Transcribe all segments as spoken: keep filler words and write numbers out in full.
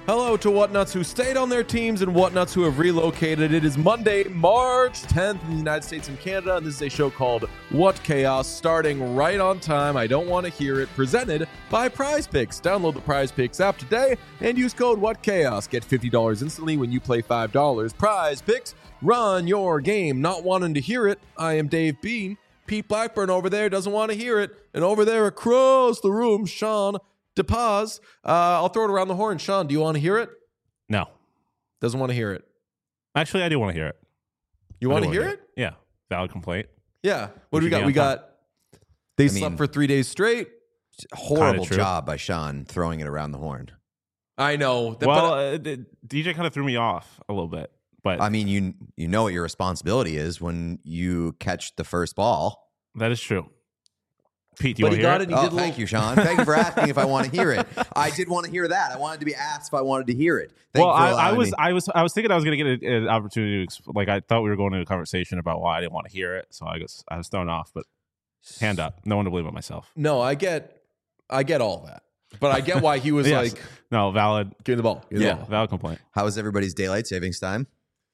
Hello to Whatnuts who stayed on their teams and Whatnuts who have relocated. It is Monday, March tenth in the United States and Canada, and this is a show called What Chaos, starting right on time. I don't want to hear it. Presented by Prize Picks. Download the Prize Picks app today and use code What Chaos. Get fifty dollars instantly when you play five dollars. Prize Picks, run your game. Not wanting to hear it, I am Dave Bean. Pete Blackburn over there doesn't want to hear it, and over there across the room, Sean DePaz. Uh, I'll throw it around the horn. Sean, do you want to hear it? No. Doesn't want to hear it. Actually, I do want to hear it. You want to hear it? Yeah. Valid complaint. Yeah. What do we should got? be We on time. got, they I slept mean- for three days straight. Horrible true. job by Sean throwing it around the horn. I know. That- Well, but, uh, d- D J kind of threw me off a little bit. But I mean, you you know what your responsibility is when you catch the first ball. that is true. Pete, do you but want he to hear got it? it. He Oh, did a thank little, you, Sean. Thank you for asking if I want to hear it. I did want to hear that. I wanted to be asked if I wanted to hear it. Thank Well, you for I, I allowing was, me. I was, I was thinking I was going to get a- an opportunity to, exp- like, I thought we were going into a conversation about why I didn't want to hear it, so I guess I was thrown off. But hand up, no one to believe but myself. no, I get, I get all that. But I get why he was Yes. like, No, valid. give me the ball. Give me the Yeah, ball. valid complaint. How was everybody's daylight savings time?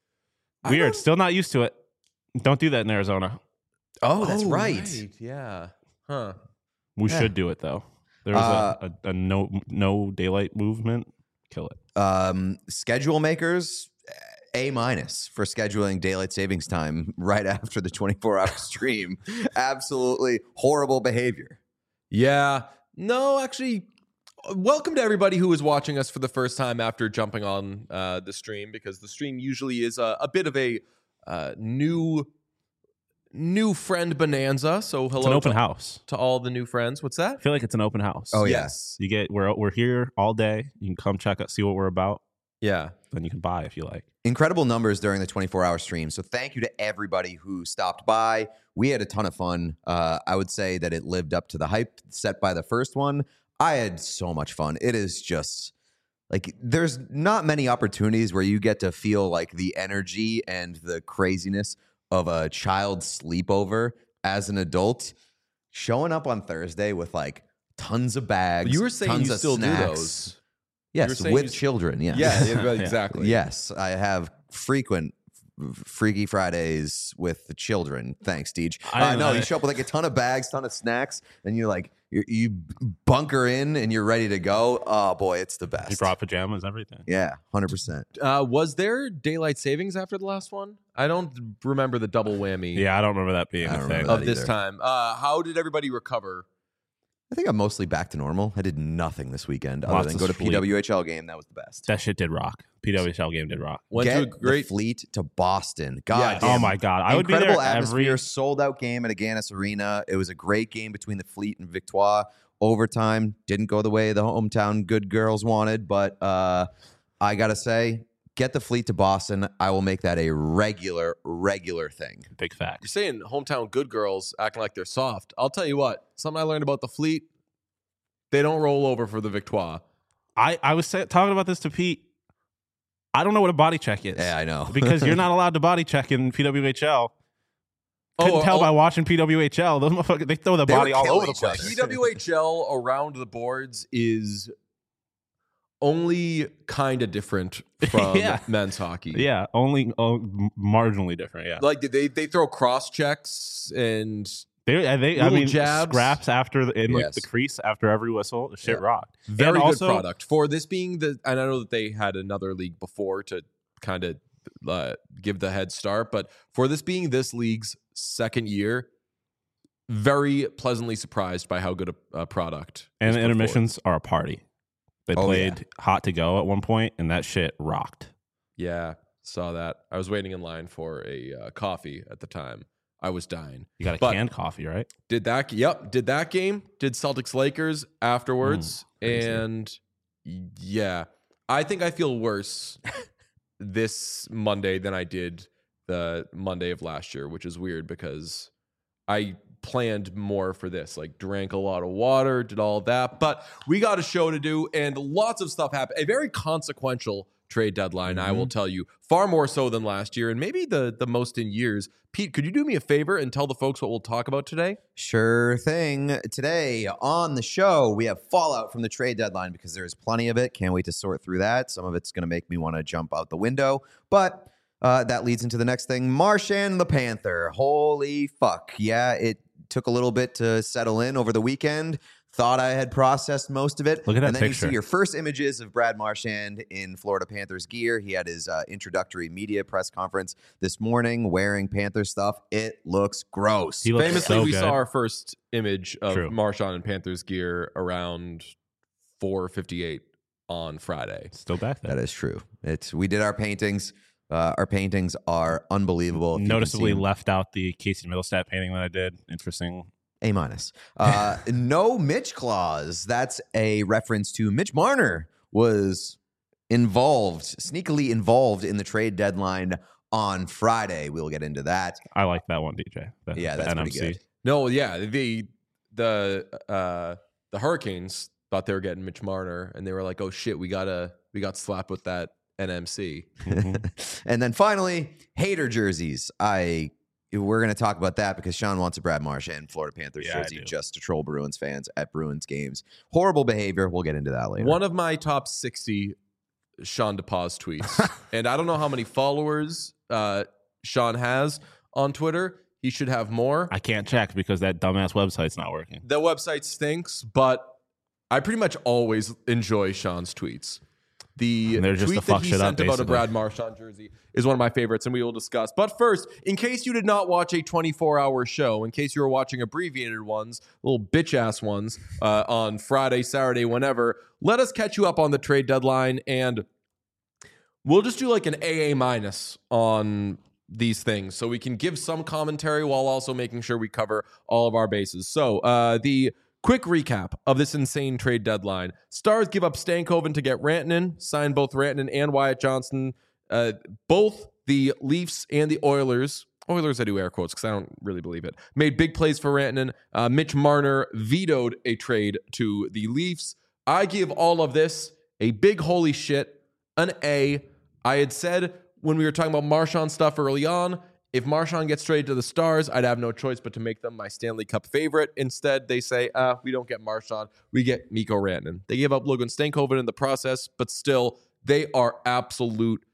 I Weird. don't- Still not used to it. Don't do that in Arizona. Oh, that's Oh, right. Yeah. Huh. We Yeah. should do it though. There was Uh, a, a, a no no daylight movement. Kill it. Um, schedule makers, A minus for scheduling daylight savings time right after the twenty-four hour stream. Absolutely horrible behavior. Yeah. No, actually, welcome to everybody who is watching us for the first time after jumping on uh, the stream, because the stream usually is a, a bit of a uh, new new friend bonanza. So hello It's an open to, house. to all the new friends. What's that? I feel like it's an open house. Oh, yeah. yes. You get we're we're here all day. You can come check out, see what we're about. Yeah. Then you can buy if you like. Incredible numbers during the twenty-four hour stream. So thank you to everybody who stopped by. We had a ton of fun. Uh, I would say that it lived up to the hype set by the first one. I had so much fun. It is just like there's not many opportunities where you get to feel like the energy and the craziness of a child sleepover as an adult. Showing up on Thursday with like tons of bags. You were saying tons you of still snacks. do those. You were Yes, saying with you- children. Yes. Yeah, yeah, exactly. Yes, I have frequent f- Freaky Fridays with the children. Thanks, Deej. I I don't know know. you show up with like a ton of bags, ton of snacks, and you like you you bunker in and you're ready to go. Oh boy, it's the You best. brought pajamas, everything. Yeah, hundred percent. Uh, was there daylight savings after the last one? I don't remember the double whammy Yeah, I don't remember that being I a don't thing. remember of that this either. time. Uh, how did everybody recover? I think I'm mostly back to normal. I did nothing this weekend other Lots than of go to sleep. P W H L game. That was the best. That shit did rock. P W H L game did rock. Went Get to a great. the fleet to Boston. God Yes. damn. Oh my god, I would be Incredible there atmosphere, every. sold out game at Aganis Arena. It was a great game between the Fleet and Victoire. Overtime didn't go the way the hometown good girls wanted, but uh, I gotta say, get the Fleet to Boston. I will make that a regular, regular thing. Big You're facts. saying hometown good girls acting like they're soft. I'll tell you what. Something I learned about the Fleet. They don't roll over for the Victoire. I I was say, talking about this to Pete. I don't know what a body check is. Yeah, I know. because you're not allowed to body check in P W H L. Couldn't Oh, tell oh. by watching P W H L. Those motherfuckers, they throw the They would body all kill over the each other. place. P W H L around the boards is only kind of different from Yeah. men's hockey. Yeah, only oh, m- marginally different. Yeah, Like they they throw cross checks and they, uh, they I Little mean, jabs. scraps after the, in like Yes. the crease after every whistle. The shit Yeah. rocked. very And good also, product for this being the. And I know that they had another league before to kind of uh, give the head start, but for this being this league's second year, very pleasantly surprised by how good a, a product. And is the put forward. intermissions are a party. They Oh, played Hot to Go at one point, and that shit rocked. Yeah, saw that. I was waiting in line for a uh, coffee at the time. I was dying. You got a But- canned coffee, right? Did that? Yep. Did that game? Did Celtics Lakers afterwards? Mm, crazy. and yeah, I think I feel worse this Monday than I did the Monday of last year, which is weird because I planned more for this. Like drank a lot of water, did all that, but we got a show to do, and lots of stuff happened. A very consequential trade deadline. Mm-hmm. I will tell you, far more so than last year, and maybe the the most in years. Pete, could you do me a favor and tell the folks what we'll talk about today? Sure thing. Today on the show, we have fallout from the trade deadline because there's plenty of it. Can't wait to sort through that. Some of it's going to make me want to jump out the window, but uh, that leads into the next thing. Marchand the Panther. Holy fuck. Yeah, it took a little bit to settle in over the weekend. Thought I had processed most of it. Look at that and then picture. you see your first images of Brad Marchand in Florida Panthers gear. He had his uh, introductory media press conference this morning wearing Panther stuff. It looks gross. He looks Famously, so we good. saw our first image of True. Marchand in Panthers gear around four fifty-eight on Friday. Still back there. That is true. It's we did our paintings. Uh, our paintings are unbelievable. If you can Noticeably see them. left out the Casey Middlestat painting that I did. Interesting. A minus. Uh, no Mitch clause. That's a reference to Mitch Marner was involved, sneakily involved in the trade deadline on Friday. We'll get into that. I like that one, D J. The, Yeah, the that's N M pretty C. good. No, yeah, the the uh, the Hurricanes thought they were getting Mitch Marner, and they were like, "Oh shit, we gotta we got slapped with that N M C." And then finally, hater jerseys. I we're going to talk about that because Sean wants a Brad Marchand Florida Panthers Yeah, I jersey do. just to troll Bruins fans at Bruins games. Horrible behavior. We'll get into that later. One of my top sixty Sean DePaz tweets, and I don't know how many followers uh, Sean has on Twitter. He should have more. I can't check because that dumbass website's not working. The website stinks, but I pretty much always enjoy Sean's tweets. The And they're just tweet to fuck that he shit up, sent about a basically. Brad Marchand jersey is one of my favorites, and we will discuss. But first, in case you did not watch a twenty-four hour show, in case you were watching abbreviated ones, little bitch-ass ones, uh, on Friday, Saturday, whenever, let us catch you up on the trade deadline, and we'll just do like an A A minus on these things so we can give some commentary while also making sure we cover all of our bases. So uh, the quick recap of this insane trade deadline. Stars give up Stankoven to get Rantanen, sign both Rantanen and Wyatt Johnson. Uh, both the Leafs and the Oilers, Oilers I do air quotes because I don't really believe it, made big plays for Rantanen. Uh, Mitch Marner vetoed a trade to the Leafs. I give all of this a big holy shit, an A. I had said when we were talking about Marchand stuff early on, if Marchand gets traded to the Stars, I'd have no choice but to make them my Stanley Cup favorite. Instead, they say, uh, we don't get Marchand, we get Mikko Rantanen. They gave up Logan Stankoven in the process, but still, they are absolute.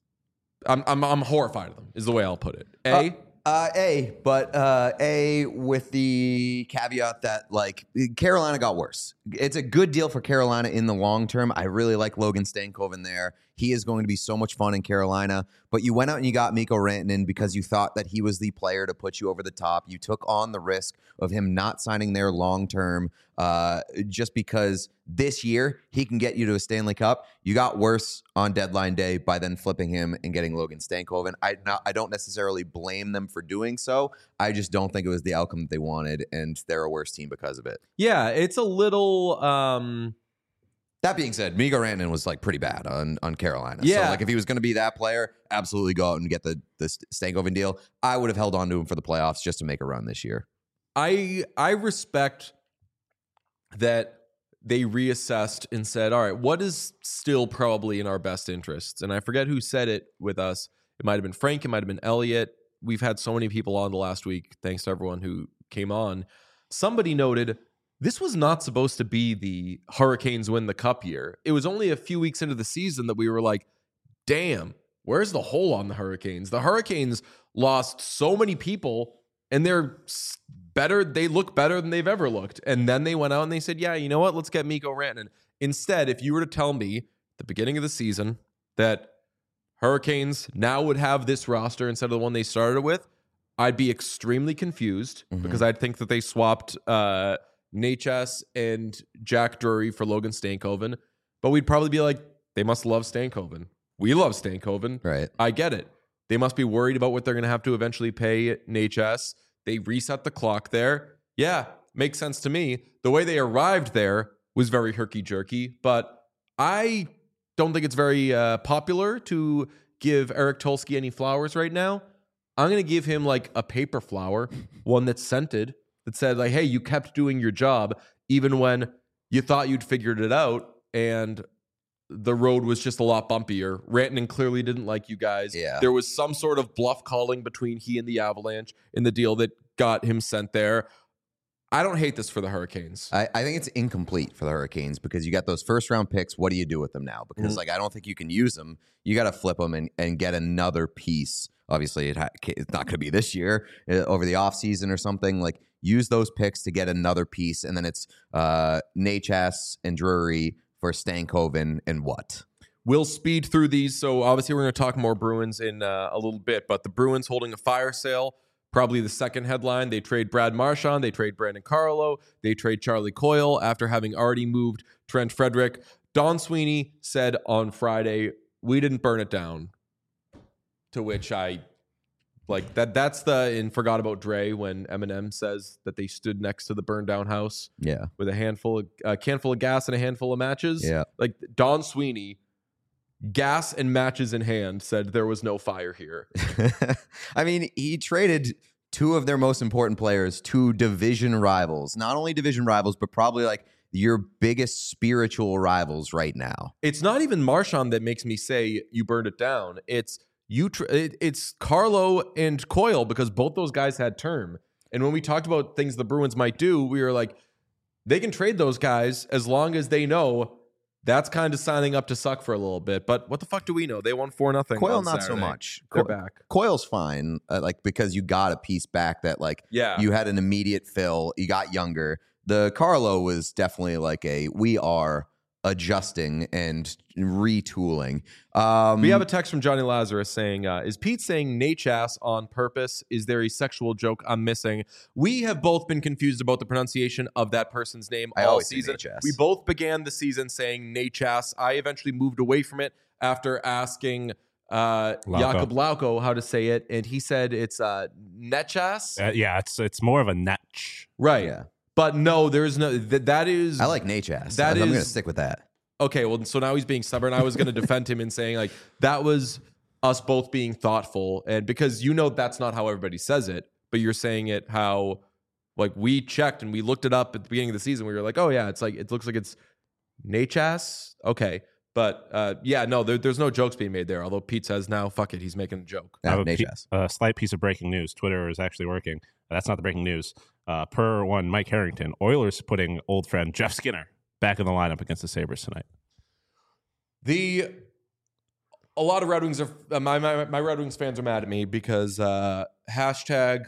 I'm I'm, I'm horrified of them, is the way I'll put it. A. Uh, uh, A, but uh, A with the caveat that, like, Carolina got worse. It's a good deal for Carolina in the long term. I really like Logan Stankoven there. He is going to be so much fun in Carolina. But you went out and you got Mikko Rantanen because you thought that he was the player to put you over the top. You took on the risk of him not signing there long term uh, just because this year he can get you to a Stanley Cup. You got worse on deadline day by then flipping him and getting Logan Stankoven. I not, I don't necessarily blame them for doing so. I just don't think it was the outcome that they wanted, and they're a worse team because of it. Yeah, it's a little. Um, That being said, Mikko Rantanen was like pretty bad on, on Carolina. Yeah. So like if he was going to be that player, absolutely go out and get the the Stankoven deal. I would have held on to him for the playoffs just to make a run this year. I I respect that they reassessed and said, all right, what is still probably in our best interests? And I forget who said it with us. It might have been Frank. It might have been Elliot. We've had so many people on the last week. Thanks to everyone who came on. Somebody noted this was not supposed to be the Hurricanes win the cup year. It was only a few weeks into the season that we were like, damn, where's the hole on the Hurricanes? The Hurricanes lost so many people and they're better. They look better than they've ever looked. And then they went out and they said, yeah, you know what? Let's get Mikko Rantanen. Instead, if you were to tell me at the beginning of the season that Hurricanes now would have this roster instead of the one they started with, I'd be extremely confused Mhm. because I'd think that they swapped uh, Natchez and Jack Drury for Logan Stankoven. But we'd probably be like, they must love Stankoven. We love Stankoven. Right. I get it. They must be worried about what they're going to have to eventually pay Natchez. They reset the clock there. Yeah, makes sense to me. The way they arrived there was very herky-jerky, but I don't think it's very uh, popular to give Eric Tulsky any flowers right now. I'm going to give him like a paper flower, one that's scented, that said like, hey, you kept doing your job even when you thought you'd figured it out. And the road was just a lot bumpier. Rantanen clearly didn't like you guys. Yeah. There was some sort of bluff calling between he and the Avalanche in the deal that got him sent there. I don't hate this for the Hurricanes. I, I think it's incomplete for the Hurricanes because you got those first round picks. What do you do with them now? Because Mm-hmm. like I don't think you can use them. You got to flip them and, and get another piece. Obviously, it ha- it's not going to be this year uh, over the offseason or something. Like use those picks to get another piece, and then it's uh, Nachas and Drury for Stankoven and what? We'll speed through these. So obviously we're going to talk more Bruins in uh, a little bit, but the Bruins holding a fire sale. Probably the second headline. They trade Brad Marchand. They trade Brandon Carlo. They trade Charlie Coyle after having already moved Trent Frederick. Don Sweeney said on Friday, we didn't burn it down. To which I, like, that. that's the, in Forgot About Dre, when Eminem says that they stood next to the burned down house Yeah, with a handful of, a canful of gas and a handful of matches. yeah. Like, Don Sweeney, gas and matches in hand, said there was no fire here. I mean, he traded two of their most important players to division rivals. Not only division rivals, but probably like your biggest spiritual rivals right now. It's not even Marchand that makes me say you burned it down. It's you. Tr- it, it's Carlo and Coyle, because both those guys had term. And when we talked about things the Bruins might do, we were like, they can trade those guys as long as they know that's kind of signing up to suck for a little bit. But what the fuck do we know? They won four nothing. Coyle, on not Saturday. so much. They're Co- back. Coyle's fine, uh, like because you got a piece back that like Yeah. you had an immediate fill. You got younger. The Carlo was definitely like a we are adjusting and retooling. Um, We have a text from Johnny Lazarus saying, uh, is Pete saying Nachas on purpose? Is there a sexual joke I'm missing? We have both been confused about the pronunciation of that person's name I all always say season. Nachas. We both began the season saying Nachas. I eventually moved away from it after asking uh, Lauko. Jakob Lauko how to say it, and he said it's uh, Nechas. Uh, yeah, it's it's more of a netch. Right. yeah. But no, there's no, th- that is. I like Nachas. That I'm going to is- stick with that. Okay, well, so now he's being stubborn. I was going to defend him and saying, like, that was us both being thoughtful. And because you know that's not how everybody says it, but you're saying it how, like, we checked and we looked it up at the beginning of the season. We were like, oh, yeah, it's like, it looks like it's Nachas. Okay. But uh, yeah, no, there, there's no jokes being made there. Although Pete says now, fuck it, he's making a joke. I have a pe- Nachas. a slight piece of breaking news. Twitter is actually working. That's not the breaking news. Uh, per one, Mike Harrington, Oilers putting old friend Jeff Skinner back in the lineup against the Sabres tonight. The a lot of Red Wings are uh, my, my my Red Wings fans are mad at me because uh, hashtag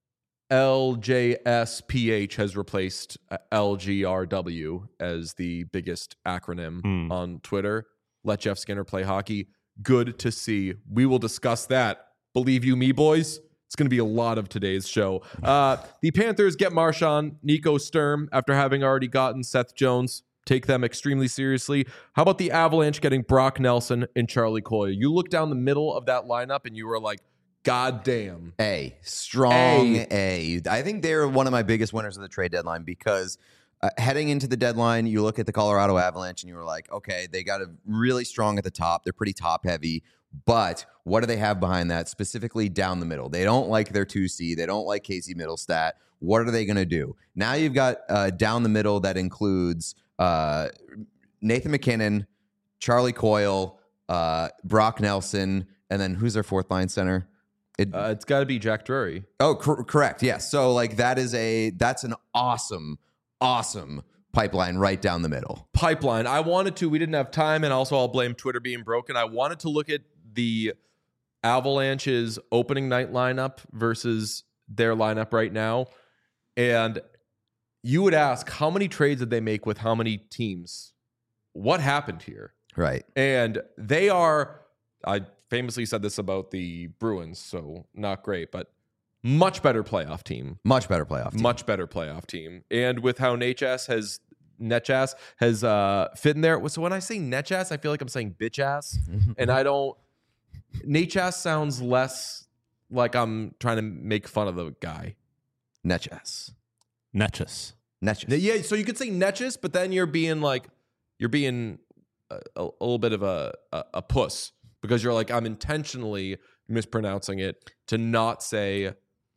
L J S P H has replaced uh, L G R W as the biggest acronym Hmm. on Twitter. Let Jeff Skinner play hockey. Good to see. We will discuss that. Believe you me, boys. It's going to be a lot of today's show. Uh, the Panthers get Marchand, Nico Sturm after having already gotten Seth Jones. Take them extremely seriously. How about the Avalanche getting Brock Nelson and Charlie Coyle? You look down the middle of that lineup and you were like, God damn. A. Strong A. A. I think they're one of my biggest winners of the trade deadline because uh, heading into the deadline, you look at the Colorado Avalanche and you were like, okay, they got a really strong at the top. They're pretty top heavy. But what do they have behind that, specifically down the middle? They don't like their two C. They don't like Casey Middlestat. What are they going to do? Now you've got uh, down the middle that includes uh, Nathan McKinnon, Charlie Coyle, uh, Brock Nelson, and then who's their fourth line center? It, Uh, it's got to be Jack Drury. oh, cor- correct. Yes. So like that is a that's an awesome, awesome pipeline right down the middle. Pipeline. I wanted to. We didn't have time, and also I'll blame Twitter being broken. I wanted to look at the Avalanche's opening night lineup versus their lineup right now, and you would ask, how many trades did they make with how many teams? What happened here? Right. And they are, I famously said this about the Bruins, so not great, but much better playoff team. Much better playoff team. Much better playoff team. And with how Nachas has Netchas has uh, fit in there. So when I say Netchas, I feel like I'm saying bitch ass. And I don't Nachas sounds less like I'm trying to make fun of the guy. Netchas. Netchus. Netchas. Yeah, so you could say Netchas, but then you're being like you're being a, a, a little bit of a, a a puss because you're like, I'm intentionally mispronouncing it to not say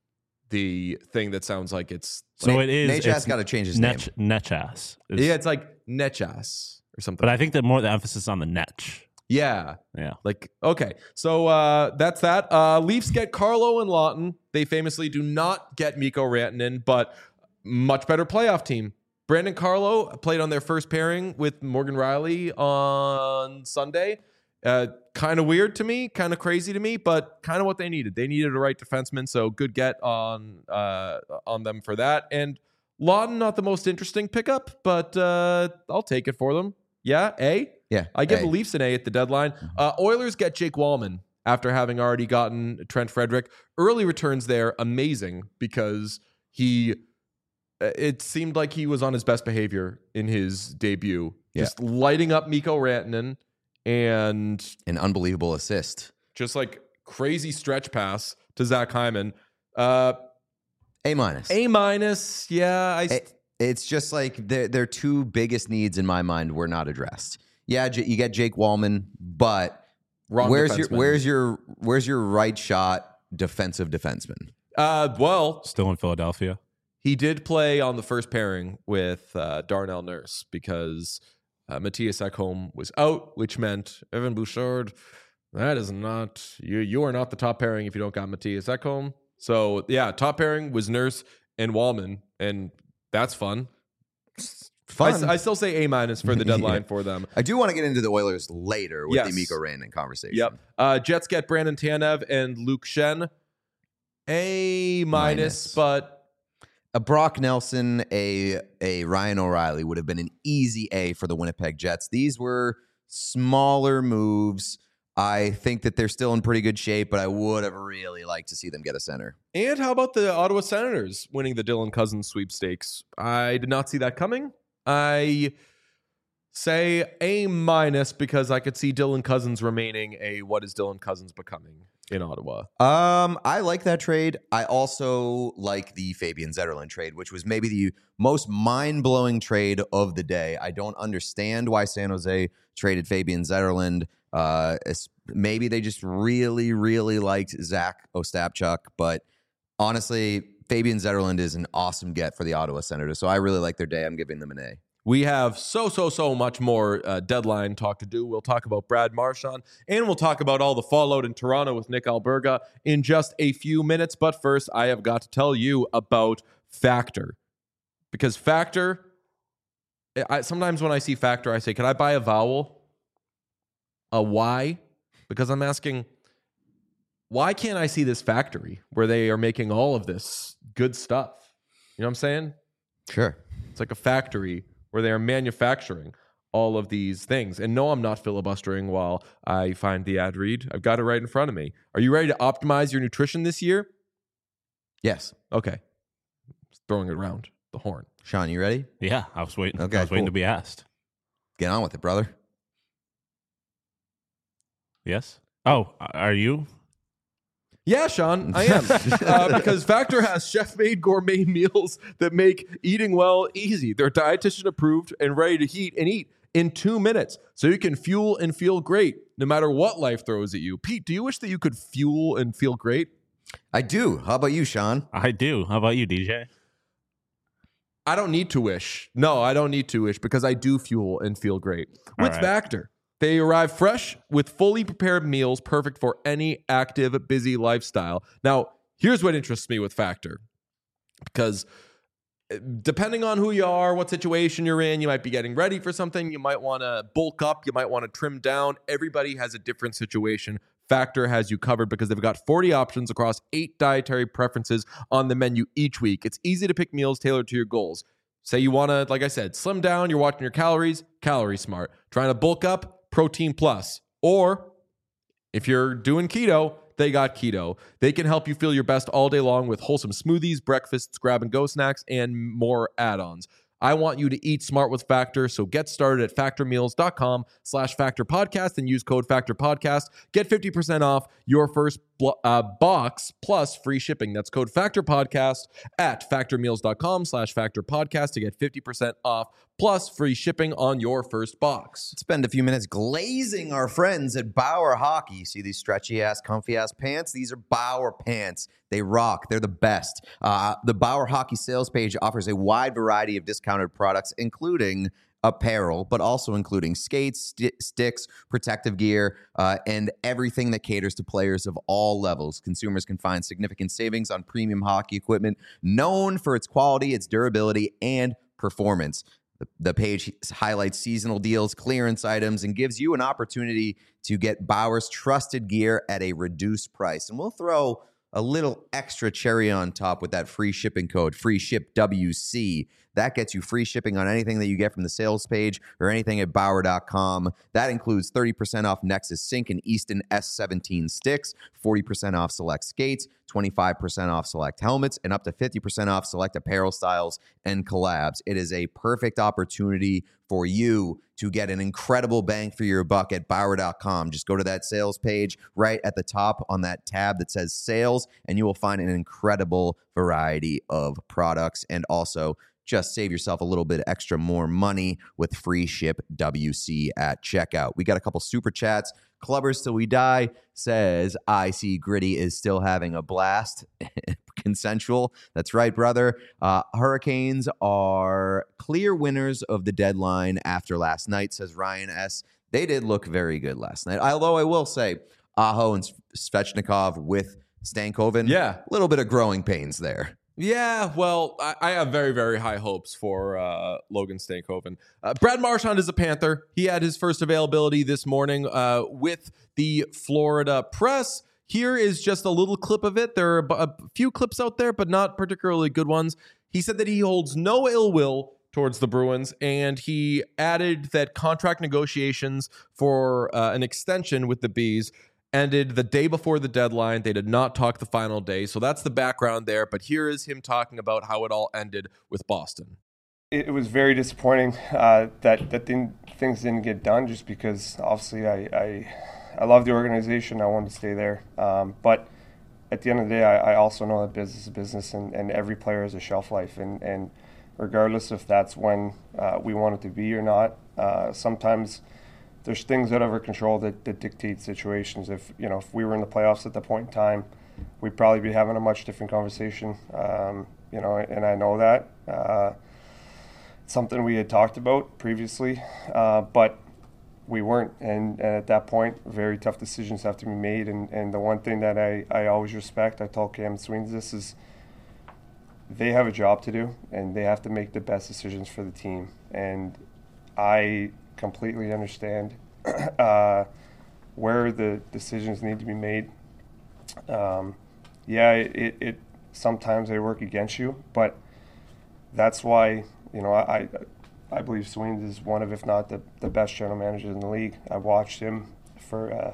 the thing that sounds like it's So Na- it is. Nachas it's got to change his Netch, name. Netchas. It's- yeah, it's like Netchas or something. But I think that more the emphasis on the net. Yeah. Yeah. Like, okay. So uh, that's that. Uh, Leafs get Carlo and Lawton. They famously do not get Mikko Rantanen, but much better playoff team. Brandon Carlo played on their first pairing with Morgan Rielly on Sunday. Uh, kind of weird to me, kind of crazy to me, but kind of what they needed. They needed a right defenseman, so good get on uh, on them for that. And Lawton, not the most interesting pickup, but uh, I'll take it for them. Yeah, A? Yeah. I give A. the Leafs an A at the deadline. Uh, Oilers get Jake Wallman after having already gotten Trent Frederick. Early returns there, amazing, because he, it seemed like he was on his best behavior in his debut. Yeah. Just lighting up Mikko Rantanen and An unbelievable assist. just like crazy stretch pass to Zach Hyman. Uh, A minus. A minus, yeah. I, A- It's just like their their two biggest needs in my mind were not addressed. Yeah, J- you get Jake Wallman, but wrong where's your defenseman. where's your where's your right shot defensive defenseman? Uh, well, Still in Philadelphia. he did play on the first pairing with uh, Darnell Nurse because uh, Matthias Ekholm was out, which meant Evan Bouchard. That is not you. You are not the top pairing if you don't got Matthias Ekholm. So yeah, top pairing was Nurse and Wallman, and that's fun. Fun. I, I still say A minus for the deadline Yeah. for them. I do want to get into the Oilers later with Yes. the Mikko Rantanen conversation. Yep. Uh, Jets get Brandon Tanev and Luke Shen. A minus, Minus. but A Brock Nelson, a a Ryan O'Reilly would have been an easy A for the Winnipeg Jets. These were smaller moves. I think that they're still in pretty good shape, but I would have really liked to see them get a center. and how about the Ottawa Senators winning the Dylan Cousins sweepstakes? I did not see that coming. I say A minus because I could see Dylan Cousins remaining a what is Dylan Cousins becoming in Ottawa. Um, I like that trade. I also like the Fabian Zetterlund trade, which was maybe the most mind-blowing trade of the day. I don't understand why San Jose traded Fabian Zetterlund. Uh, it's, maybe they just really, really liked Zach Ostapchuk, but honestly, Fabian Zetterlund is an awesome get for the Ottawa Senators, so I really like their day. I'm giving them an A. We have so, so, so much more uh, deadline talk to do. We'll talk about Brad Marchand, and we'll talk about all the fallout in Toronto with Nick Alberga in just a few minutes. But first, I have got to tell you about Factor. Because Factor, I, sometimes when I see Factor, I say, can I buy a vowel? A Y? Because I'm asking, why can't I see this factory where they are making all of this good stuff? You know what I'm saying? Sure. It's like a factory where they are manufacturing all of these things. And no, I'm not filibustering while I find the ad read. I've got it right in front of me. Are you ready to optimize your nutrition this year? Yes. Okay. Just throwing it around the horn. Sean, you ready? Yeah, I was waiting. Okay, I was waiting cool. to be asked. Get on with it, brother. Yes. Oh, are you? Yeah, Sean, I am. uh, because Factor has chef-made gourmet meals that make eating well easy. They're dietitian approved and ready to heat and eat in two minutes. So you can fuel and feel great no matter what life throws at you. Pete, do you wish that you could fuel and feel great? I do. How about you, Sean? I do. How about you, D J? I don't need to wish. No, I don't need to wish because I do fuel and feel great. All With right. Factor, they arrive fresh with fully prepared meals perfect for any active, busy lifestyle. Now, here's what interests me with Factor. Because depending on who you are, what situation you're in, you might be getting ready for something. You might want to bulk up. You might want to trim down. Everybody has a different situation. Factor has you covered because they've got forty options across eight dietary preferences on the menu each week. It's easy to pick meals tailored to your goals. Say you want to, like I said, slim down, you're watching your calories, Calorie Smart. Trying to bulk up, Protein Plus. Or if you're doing keto, they got keto. They can help you feel your best all day long with wholesome smoothies, breakfasts, grab-and-go snacks, and more add-ons. I want you to eat smart with Factor, so get started at factormeals.com slash factor podcast and use code factor podcast. Get fifty percent off your first blo- uh, box plus free shipping. That's code factor podcast at factormeals.com slash factor podcast to get fifty percent off plus free shipping on your first box. Spend a few minutes glazing our friends at Bauer Hockey. You see these stretchy ass, comfy ass pants? These are Bauer pants. They rock. They're the best. Uh, the Bauer Hockey sales page offers a wide variety of discounted products, including apparel, but also including skates, st- sticks, protective gear, uh, and everything that caters to players of all levels. Consumers can find significant savings on premium hockey equipment known for its quality, its durability, and performance. The, the page highlights seasonal deals, clearance items, and gives you an opportunity to get Bauer's trusted gear at a reduced price. And we'll throw a little extra cherry on top with that free shipping code, free ship W C. That gets you free shipping on anything that you get from the sales page or anything at Bauer dot com. That includes thirty percent off Nexus Sync and Easton S seventeen sticks, forty percent off select skates, twenty-five percent off select helmets, and up to fifty percent off select apparel styles and collabs. It is a perfect opportunity for you to get an incredible bang for your buck at Bauer dot com. Just go to that sales page right at the top on that tab that says sales, and you will find an incredible variety of products, and also just save yourself a little bit extra more money with free ship W C at checkout. We got a couple super chats. Clubbers Till We Die says, I see Gritty is still having a blast. Consensual. That's right, brother. Uh, Hurricanes are clear winners of the deadline after last night, says Ryan S. They did look very good last night. Although I will say, Aho and Svechnikov with Stankoven, Yeah. a little bit of growing pains there. Yeah, well, I, I have very, very high hopes for uh, Logan Stankoven. Uh, Brad Marchand is a Panther. He had his first availability this morning uh, with the Florida Press. Here is just a little clip of it. There are a few clips out there, but not particularly good ones. He said that he holds no ill will towards the Bruins, and he added that contract negotiations for uh, an extension with the Bees ended the day before the deadline. They did not talk the final day. So that's the background there. But here is him talking about how it all ended with Boston. It was very disappointing uh, that that thing, things didn't get done, just because obviously I, I I love the organization. I wanted to stay there. Um, but at the end of the day, I, I also know that business is business, and, and every player has a shelf life. And, and regardless if that's when uh, we want it to be or not, uh, sometimes there's things out of our control that, that dictate situations. If you know, if we were in the playoffs at that point in time, we'd probably be having a much different conversation. Um, you know, and I know that. Uh, it's something we had talked about previously, uh, but we weren't. And, and at that point, very tough decisions have to be made. And, and the one thing that I, I always respect, I told Cam Sweens this, is they have a job to do, and they have to make the best decisions for the team. And I completely understand uh, where the decisions need to be made. Um, yeah, it, it sometimes they work against you, but that's why, you know, I I believe Sweens is one of, if not the, the best general managers in the league. I watched him for uh,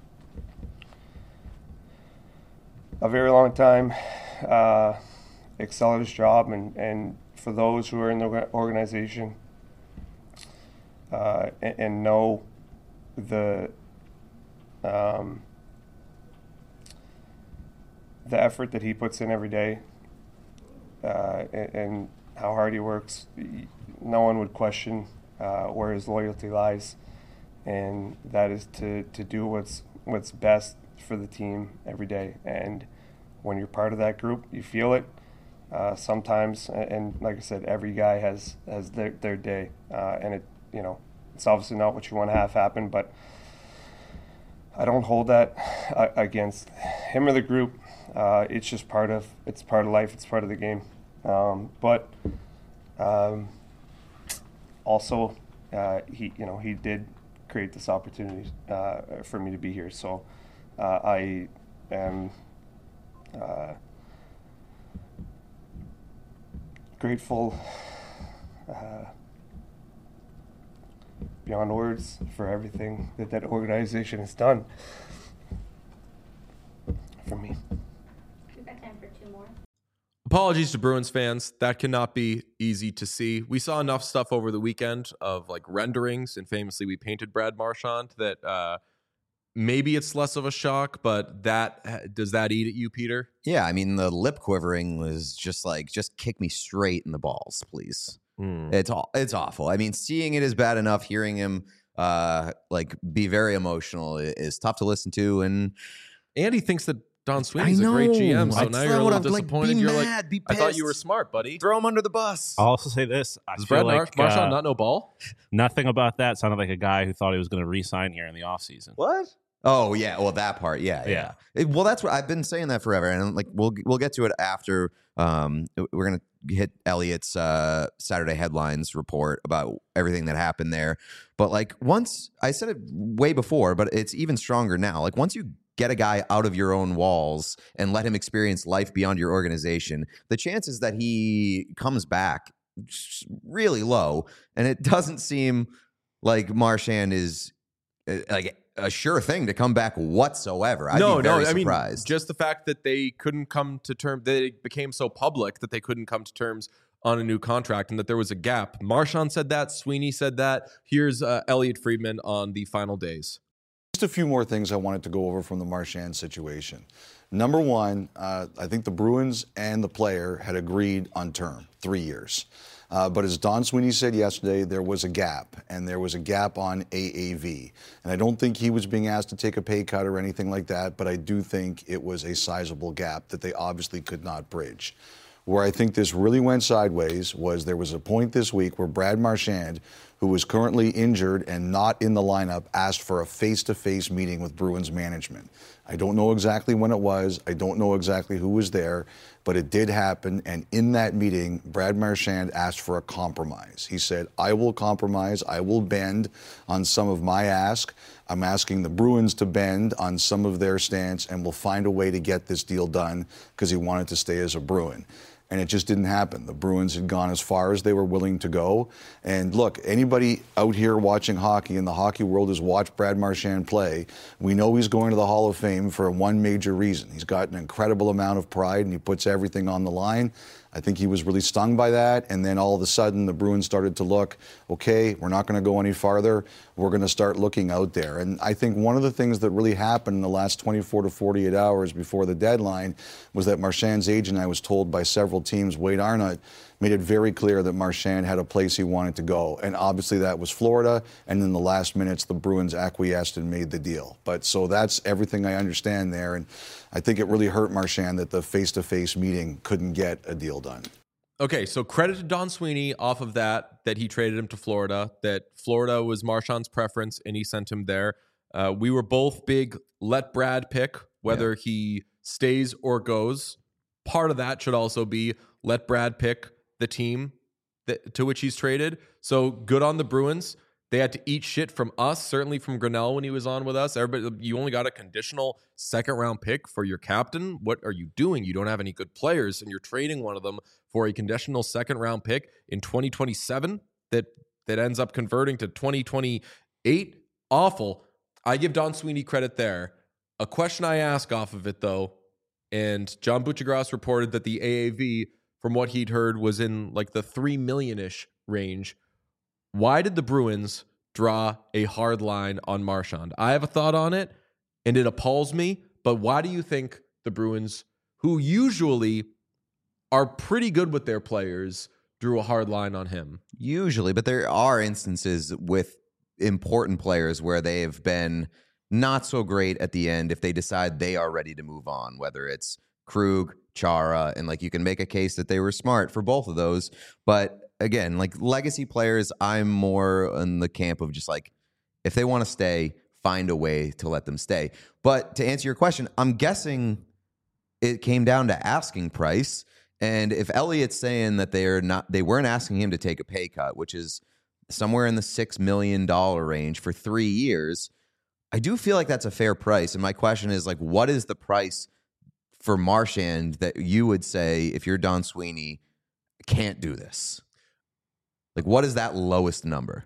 a very long time, uh, excel at his job, and, and for those who are in the organization, Uh, and, and know the um, the effort that he puts in every day, uh, and, and how hard he works. No one would question uh, where his loyalty lies, and that is to, to do what's what's best for the team every day. And when you're part of that group, you feel it. Uh, sometimes, and, and like I said, every guy has has their their day, uh, and it. You know, it's obviously not what you want to have happen, but I don't hold that uh, against him or the group. Uh, it's just part of it's part of life. It's part of the game. Um, but um, also, uh, he you know he did create this opportunity uh, for me to be here. So uh, I am uh, grateful. Uh, beyond words for everything that that organization has done for me. We've got time for two more. Apologies to Bruins fans. That cannot be easy to see. We saw enough stuff over the weekend of like renderings, and famously we painted Brad Marchand, that uh, maybe it's less of a shock, but that does that eat at you, Peter? Yeah, I mean, the lip quivering was just like, just kick me straight in the balls, please. Mm. It's all it's awful. I mean, seeing it is bad enough. Hearing him uh, like be very emotional is tough to listen to, and and he thinks that Don Sweeney's a great G M, so That's now you're a not what little I'm- like, disappointed. be you're mad, like, be I thought you were pissed. smart, buddy. Throw him under the bus. I'll also say this: I Does feel Brad like Marchand uh, not know ball? nothing about that sounded like a guy who thought he was going to re-sign here in the offseason. What? Oh yeah, well that part, yeah, yeah. Yeah. It- well, that's what I've been saying that forever, and like we'll we'll get to it after. Um, we're gonna hit Elliot's uh, Saturday headlines report about everything that happened there. But like once I said it way before, but it's even stronger now. Like once you get a guy out of your own walls and let him experience life beyond your organization, the chances that he comes back is really low, and it doesn't seem like Marchand is uh, like a sure thing to come back whatsoever. I'd no, be very no. I mean, surprised. just the fact that they couldn't come to terms, they became so public that they couldn't come to terms on a new contract and that there was a gap. Marchand said that. Sweeney said that. Here's uh, Elliot Friedman on the final days. Just a few more things I wanted to go over from the Marchand situation. Number one, uh, I think the Bruins and the player had agreed on term, three years. Uh, but as Don Sweeney said yesterday, there was a gap, and there was a gap on A A V. And I don't think he was being asked to take a pay cut or anything like that, but I do think it was a sizable gap that they obviously could not bridge. Where I think this really went sideways was there was a point this week where Brad Marchand, who was currently injured and not in the lineup, asked for a face-to-face meeting with Bruins management. I don't know exactly when it was. I don't know exactly who was there, but it did happen. And in that meeting, Brad Marchand asked for a compromise. He said, I will compromise. I will bend on some of my ask. I'm asking the Bruins to bend on some of their stance, and we'll find a way to get this deal done, because he wanted to stay as a Bruin. And it just didn't happen. The Bruins had gone as far as they were willing to go. And look, anybody out here watching hockey in the hockey world has watched Brad Marchand play. We know he's going to the Hall of Fame for one major reason. He's got an incredible amount of pride, and he puts everything on the line. I think he was really stung by that, and then all of a sudden the Bruins started to look, okay, we're not going to go any farther. We're going to start looking out there. And I think one of the things that really happened in the last twenty-four to forty-eight hours before the deadline was that Marchand's agent, I was told by several teams, Wade Arnott, made it very clear that Marchand had a place he wanted to go. And obviously that was Florida, and in the last minutes the Bruins acquiesced and made the deal. But so that's everything I understand there, and I think it really hurt Marchand that the face-to-face meeting couldn't get a deal done. Okay, so credit to Don Sweeney off of that, that he traded him to Florida, that Florida was Marchand's preference and he sent him there. Uh, we were both big let Brad pick whether yeah. he stays or goes. Part of that should also be let Brad pick the team that, to which he's traded. So good on the Bruins. They had to eat shit from us, certainly from Grinnell when he was on with us. Everybody, you only got a conditional second round pick for your captain. What are you doing? You don't have any good players, and you're trading one of them for a conditional second round pick in twenty twenty-seven that that ends up converting to twenty twenty-eight. Awful. I give Don Sweeney credit there. A question I ask off of it, though, and John Buccigross reported that the A A V, from what he'd heard, was in like the three million-ish range. Why did the Bruins draw a hard line on Marchand? I have a thought on it, and it appalls me, but why do you think the Bruins, who usually are pretty good with their players, drew a hard line on him? Usually, but there are instances with important players where they have been not so great at the end if they decide they are ready to move on, whether it's Krug, Chara, and like you can make a case that they were smart for both of those, but again, like legacy players, I'm more in the camp of just like, if they want to stay, find a way to let them stay. But to answer your question, I'm guessing it came down to asking price. And if Elliott's saying that they're not, they weren't asking him to take a pay cut, which is somewhere in the six million dollars range for three years, I do feel like that's a fair price. And my question is like, what is the price for Marchand that you would say, if you're Don Sweeney, can't do this? Like, what is that lowest number?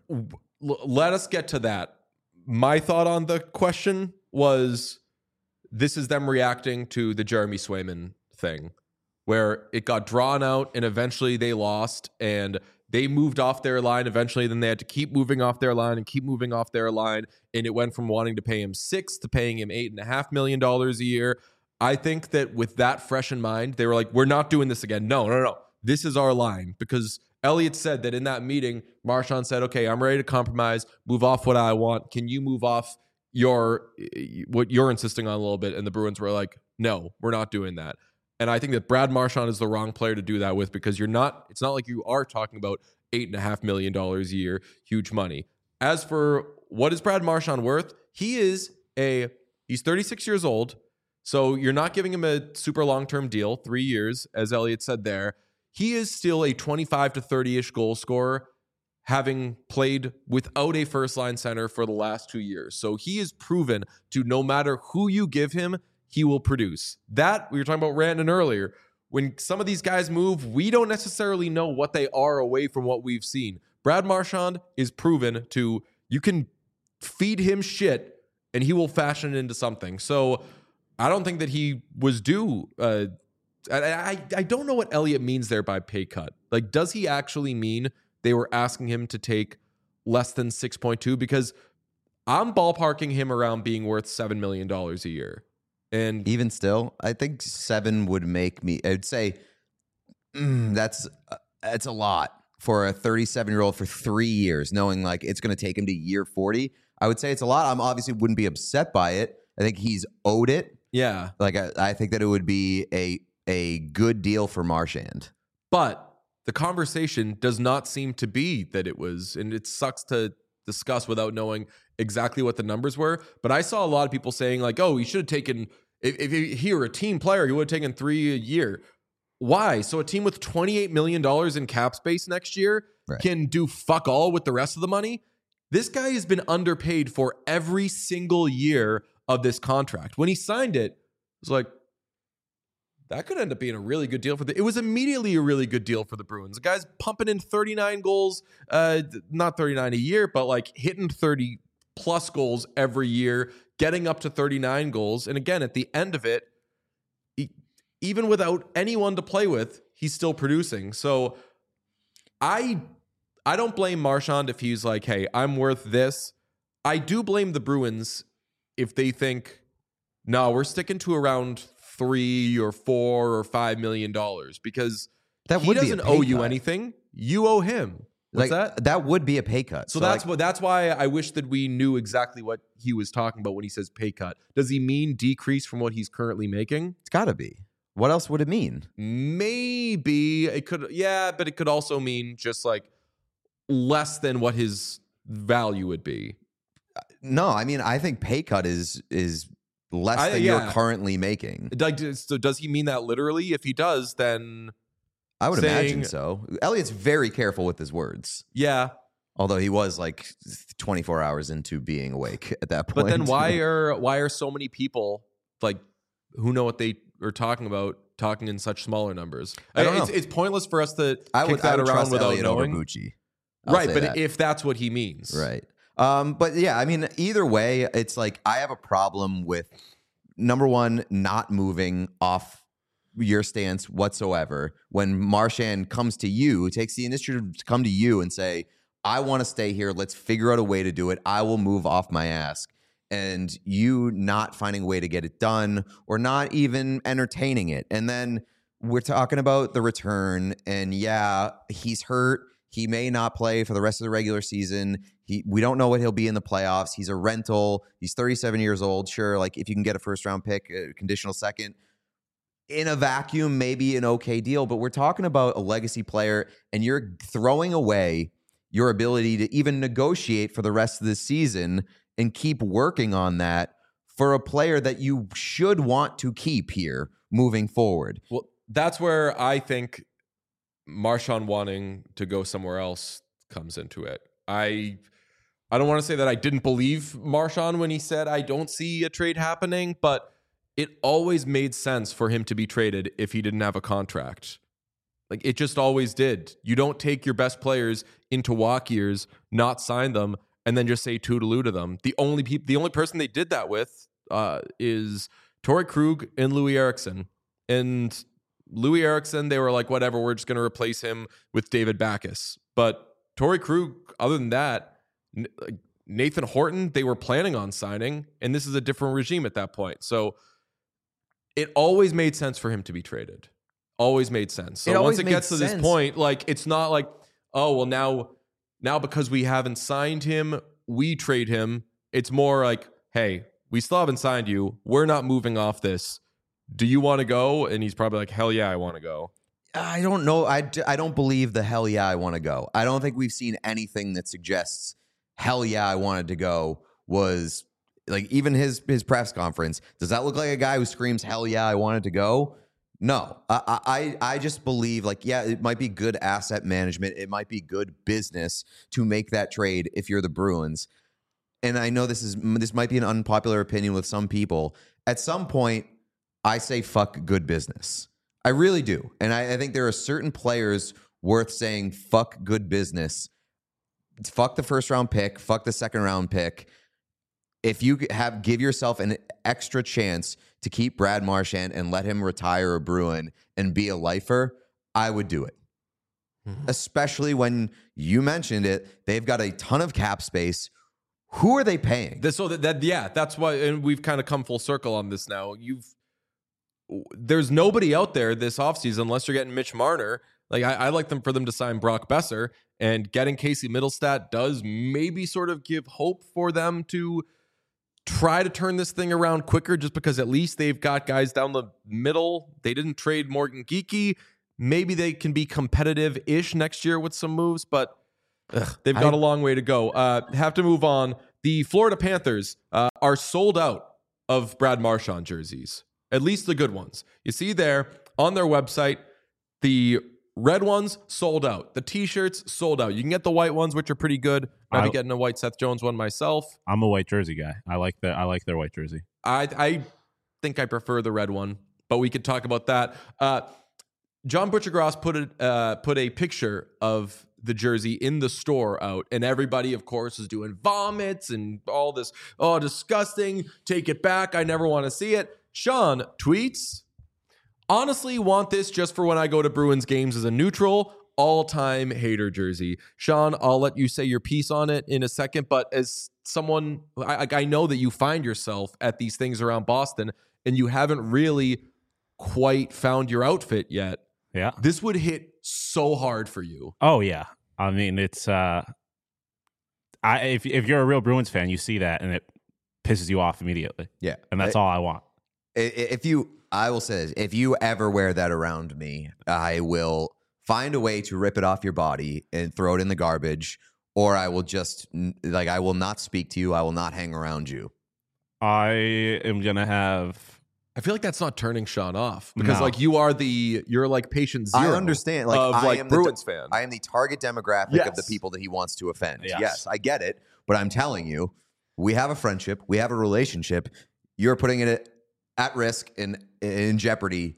Let us get to that. My thought on the question was, this is them reacting to the Jeremy Swayman thing, where it got drawn out and eventually they lost and they moved off their line eventually. Then they had to keep moving off their line and keep moving off their line. And it went from wanting to pay him six to paying him eight and a half million dollars a year. I think that with that fresh in mind, they were like, we're not doing this again. No, no, no. This is our line, because Elliott said that in that meeting, Marchand said, okay, I'm ready to compromise, move off what I want. Can you move off your what you're insisting on a little bit? And the Bruins were like, no, we're not doing that. And I think that Brad Marchand is the wrong player to do that with, because you're not, it's not like you are talking about eight and a half million dollars a year, huge money. As for what is Brad Marchand worth, he is a, he's thirty-six years old. So you're not giving him a super long-term deal, three years, as Elliot said there. He is still a twenty-five to thirty-ish goal scorer, having played without a first-line center for the last two years. So he is proven to, no matter who you give him, he will produce. That, we were talking about Rantanen earlier. When some of these guys move, we don't necessarily know what they are away from what we've seen. Brad Marchand is proven to, you can feed him shit and he will fashion it into something. So I don't think that he was due. Uh, I, I I don't know what Elliot means there by pay cut. Like, does he actually mean they were asking him to take less than six point two? Because I'm ballparking him around being worth seven million dollars a year. And even still, I think seven would make me, I'd say mm, that's, uh, that's a lot for a thirty-seven-year-old for three years, knowing like it's going to take him to year forty. I would say it's a lot. I'm obviously wouldn't be upset by it. I think he's owed it. Yeah. Like, I, I think that it would be a a good deal for Marchand. But the conversation does not seem to be that it was, and it sucks to discuss without knowing exactly what the numbers were. But I saw a lot of people saying like, oh, he should have taken, if, if he were a team player, he would have taken three a year. Why? So a team with twenty-eight million dollars in cap space next year right. can do fuck all with the rest of the money? This guy has been underpaid for every single year of this contract. When he signed it, it was like, that could end up being a really good deal for the, it was immediately a really good deal for the Bruins. The guy's pumping in thirty-nine goals, uh, not thirty-nine a year, but like hitting thirty plus goals every year, getting up to thirty-nine goals. And again, at the end of it, he, even without anyone to play with, he's still producing. So I, I don't blame Marchand if he's like, hey, I'm worth this. I do blame the Bruins if they think, no, we're sticking to around three or four or five million dollars, because that he would doesn't be a owe pay you cut. anything. You owe him. What's like, that? That would be a pay cut. So, so that's like, what. That's why I wish that we knew exactly what he was talking about when he says pay cut. Does he mean decrease from what he's currently making? It's got to be. What else would it mean? Maybe it could. Yeah, but it could also mean just like less than what his value would be. No, I mean, I think pay cut is is less I, than yeah. you're currently making. Like, so does he mean that literally? If he does, then I would saying, imagine so. Elliot's very careful with his words. Yeah. Although he was like twenty-four hours into being awake at that point. But then why are why are so many people like who know what they are talking about talking in such smaller numbers? I don't it's, know. it's pointless for us to I kick would, that I would around trust without Elliot over knowing. Bucci. I'll Right, say but that. if that's what he means. Right. Um, but yeah, I mean, either way, it's like I have a problem with number one, not moving off your stance whatsoever. When Marchand comes to you, takes the initiative to come to you and say, I want to stay here. Let's figure out a way to do it. I will move off my ass. And you not finding a way to get it done or not even entertaining it. And then we're talking about the return. And yeah, he's hurt. He may not play for the rest of the regular season. He, we don't know what he'll be in the playoffs. He's a rental. He's thirty-seven years old. Sure, like if you can get a first-round pick, a conditional second, in a vacuum, maybe an okay deal. But we're talking about a legacy player, and you're throwing away your ability to even negotiate for the rest of the season and keep working on that for a player that you should want to keep here moving forward. Well, that's where I think Marchand wanting to go somewhere else comes into it. I I don't want to say that I didn't believe Marchand when he said I don't see a trade happening, but it always made sense for him to be traded if he didn't have a contract. Like, it just always did. You don't take your best players into walk years, not sign them, and then just say toodaloo to them. The only people, the only person they did that with uh, is Torrey Krug and Louis Eriksson. And Louis Eriksson, they were like, whatever, we're just going to replace him with David Backes. But Torrey Krug, other than that, Nathan Horton, they were planning on signing, and this is a different regime at that point. So it always made sense for him to be traded. Always made sense. So It always once it made gets to this sense. point, like, it's not like, oh, well, now, now because we haven't signed him, we trade him. It's more like, hey, we still haven't signed you. We're not moving off this. do you want to go? And he's probably like, hell yeah, I want to go. I don't know. I, d- I don't believe the hell yeah, I want to go. I don't think we've seen anything that suggests hell yeah, I wanted to go was like even his his press conference. Does that look like a guy who screams hell yeah, I wanted to go? No, I, I I just believe like, yeah, it might be good asset management. It might be good business to make that trade if you're the Bruins. And I know this is this might be an unpopular opinion with some people. At some point, I say fuck good business. I really do. And I, I think there are certain players worth saying fuck good business. Fuck the first round pick. Fuck the second round pick. If you have give yourself an extra chance to keep Brad Marchand and let him retire a Bruin and be a lifer, I would do it. Mm-hmm. Especially when you mentioned it, they've got a ton of cap space. Who are they paying? This, so that, that yeah, that's why, and we've kind of come full circle on this now. You've There's nobody out there this offseason unless you're getting Mitch Marner. Like I, I like them for them to sign Brock Besser, and getting Casey Middlestat does maybe sort of give hope for them to try to turn this thing around quicker, just because at least they've got guys down the middle. They didn't trade Morgan Geekie. Maybe they can be competitive-ish next year with some moves, but ugh, they've got I, a long way to go. Uh, have to move on. The Florida Panthers uh, are sold out of Brad Marchand jerseys. At least the good ones. You see there on their website, the red ones sold out. The T-shirts sold out. You can get the white ones, which are pretty good. I'll be getting a white Seth Jones one myself. I'm a white jersey guy. I like the I like their white jersey. I I think I prefer the red one, but we could talk about that. Uh, John Butchergross put a uh, put a picture of the jersey in the store out, and everybody, of course, is doing vomits and all this. Oh, disgusting! Take it back. I never want to see it. Sean tweets, honestly want this just for when I go to Bruins games as a neutral, all-time hater jersey. Sean, I'll let you say your piece on it in a second, but as someone, I, I know that you find yourself at these things around Boston, and you haven't really quite found your outfit yet. Yeah. This would hit so hard for you. Oh, yeah. I mean, it's, uh, I if if you're a real Bruins fan, you see that, and it pisses you off immediately. Yeah. And that's I, all I want. If you, I will say this, if you ever wear that around me, I will find a way to rip it off your body and throw it in the garbage, or I will just, like, I will not speak to you. I will not hang around you. I am going to have... I feel like that's not turning Sean off, because no. like you are the, you're like patient zero. I understand. Like, of I like am Bruins the, fan. I am the target demographic yes. of the people that he wants to offend. Yes. yes, I get it. But I'm telling you, we have a friendship. We have a relationship. You're putting it at risk and in jeopardy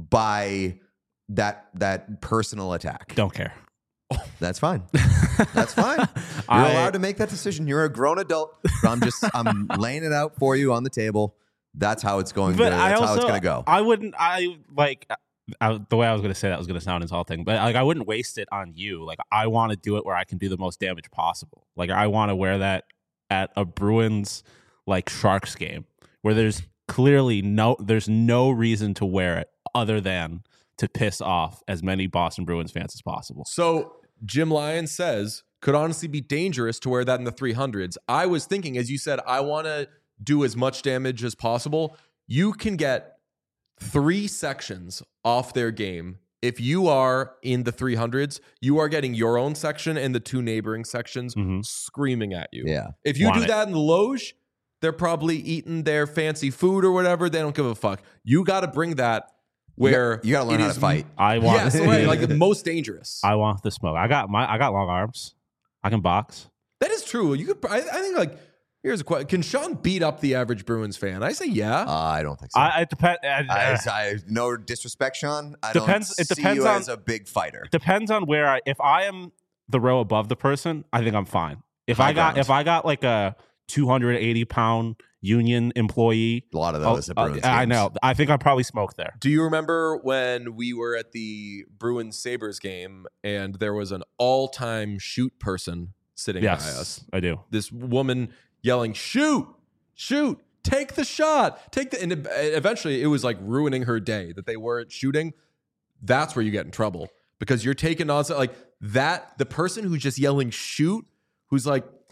by that that personal attack. Don't care. That's fine. That's fine. You're I, allowed to make that decision. You're a grown adult. But I'm just I'm laying it out for you on the table. That's how it's going. To, that's I also, how it's going to go. I wouldn't. I like I, the way I was going to say that was going to sound insulting, but like I wouldn't waste it on you. Like I want to do it where I can do the most damage possible. Like I want to wear that at a Bruins like Sharks game where there's clearly no there's no reason to wear it other than to piss off as many Boston Bruins fans as possible. So Jim Lyons says could honestly be dangerous to wear that in the three hundreds. I was thinking, as you said, I want to do as much damage as possible. You can get three sections off their game. If you are in the three hundreds, you are getting your own section and the two neighboring sections mm-hmm. screaming at you. Yeah. If you Want do it. that in the Loge, they're probably eating their fancy food or whatever. They don't give a fuck. You got to bring that where you got to learn it how is to fight. I want yes, right, like the most dangerous. I want the smoke. I got my I got long arms. I can box. That is true. You could. I, I think like. Here's a question. Can Sean beat up the average Bruins fan? I say yeah. Uh, I don't think so. I, it depends. I, I, no disrespect, Sean. I depends, don't it depends see you on, as a big fighter. Depends on where I. If I am the row above the person, I think I'm fine. If High I got ground. if I got like a two hundred eighty pound union employee, a lot of those oh, at Bruins uh, I games. know. I think I probably smoked there. Do you remember when we were at the Bruins Sabres game and there was an all-time shoot person sitting yes, by us? I do. This woman yelling, shoot, shoot, take the shot, take the, and it, eventually it was like ruining her day that they weren't shooting. That's where you get in trouble because you're taking on like that. The person who's just yelling shoot, who's like,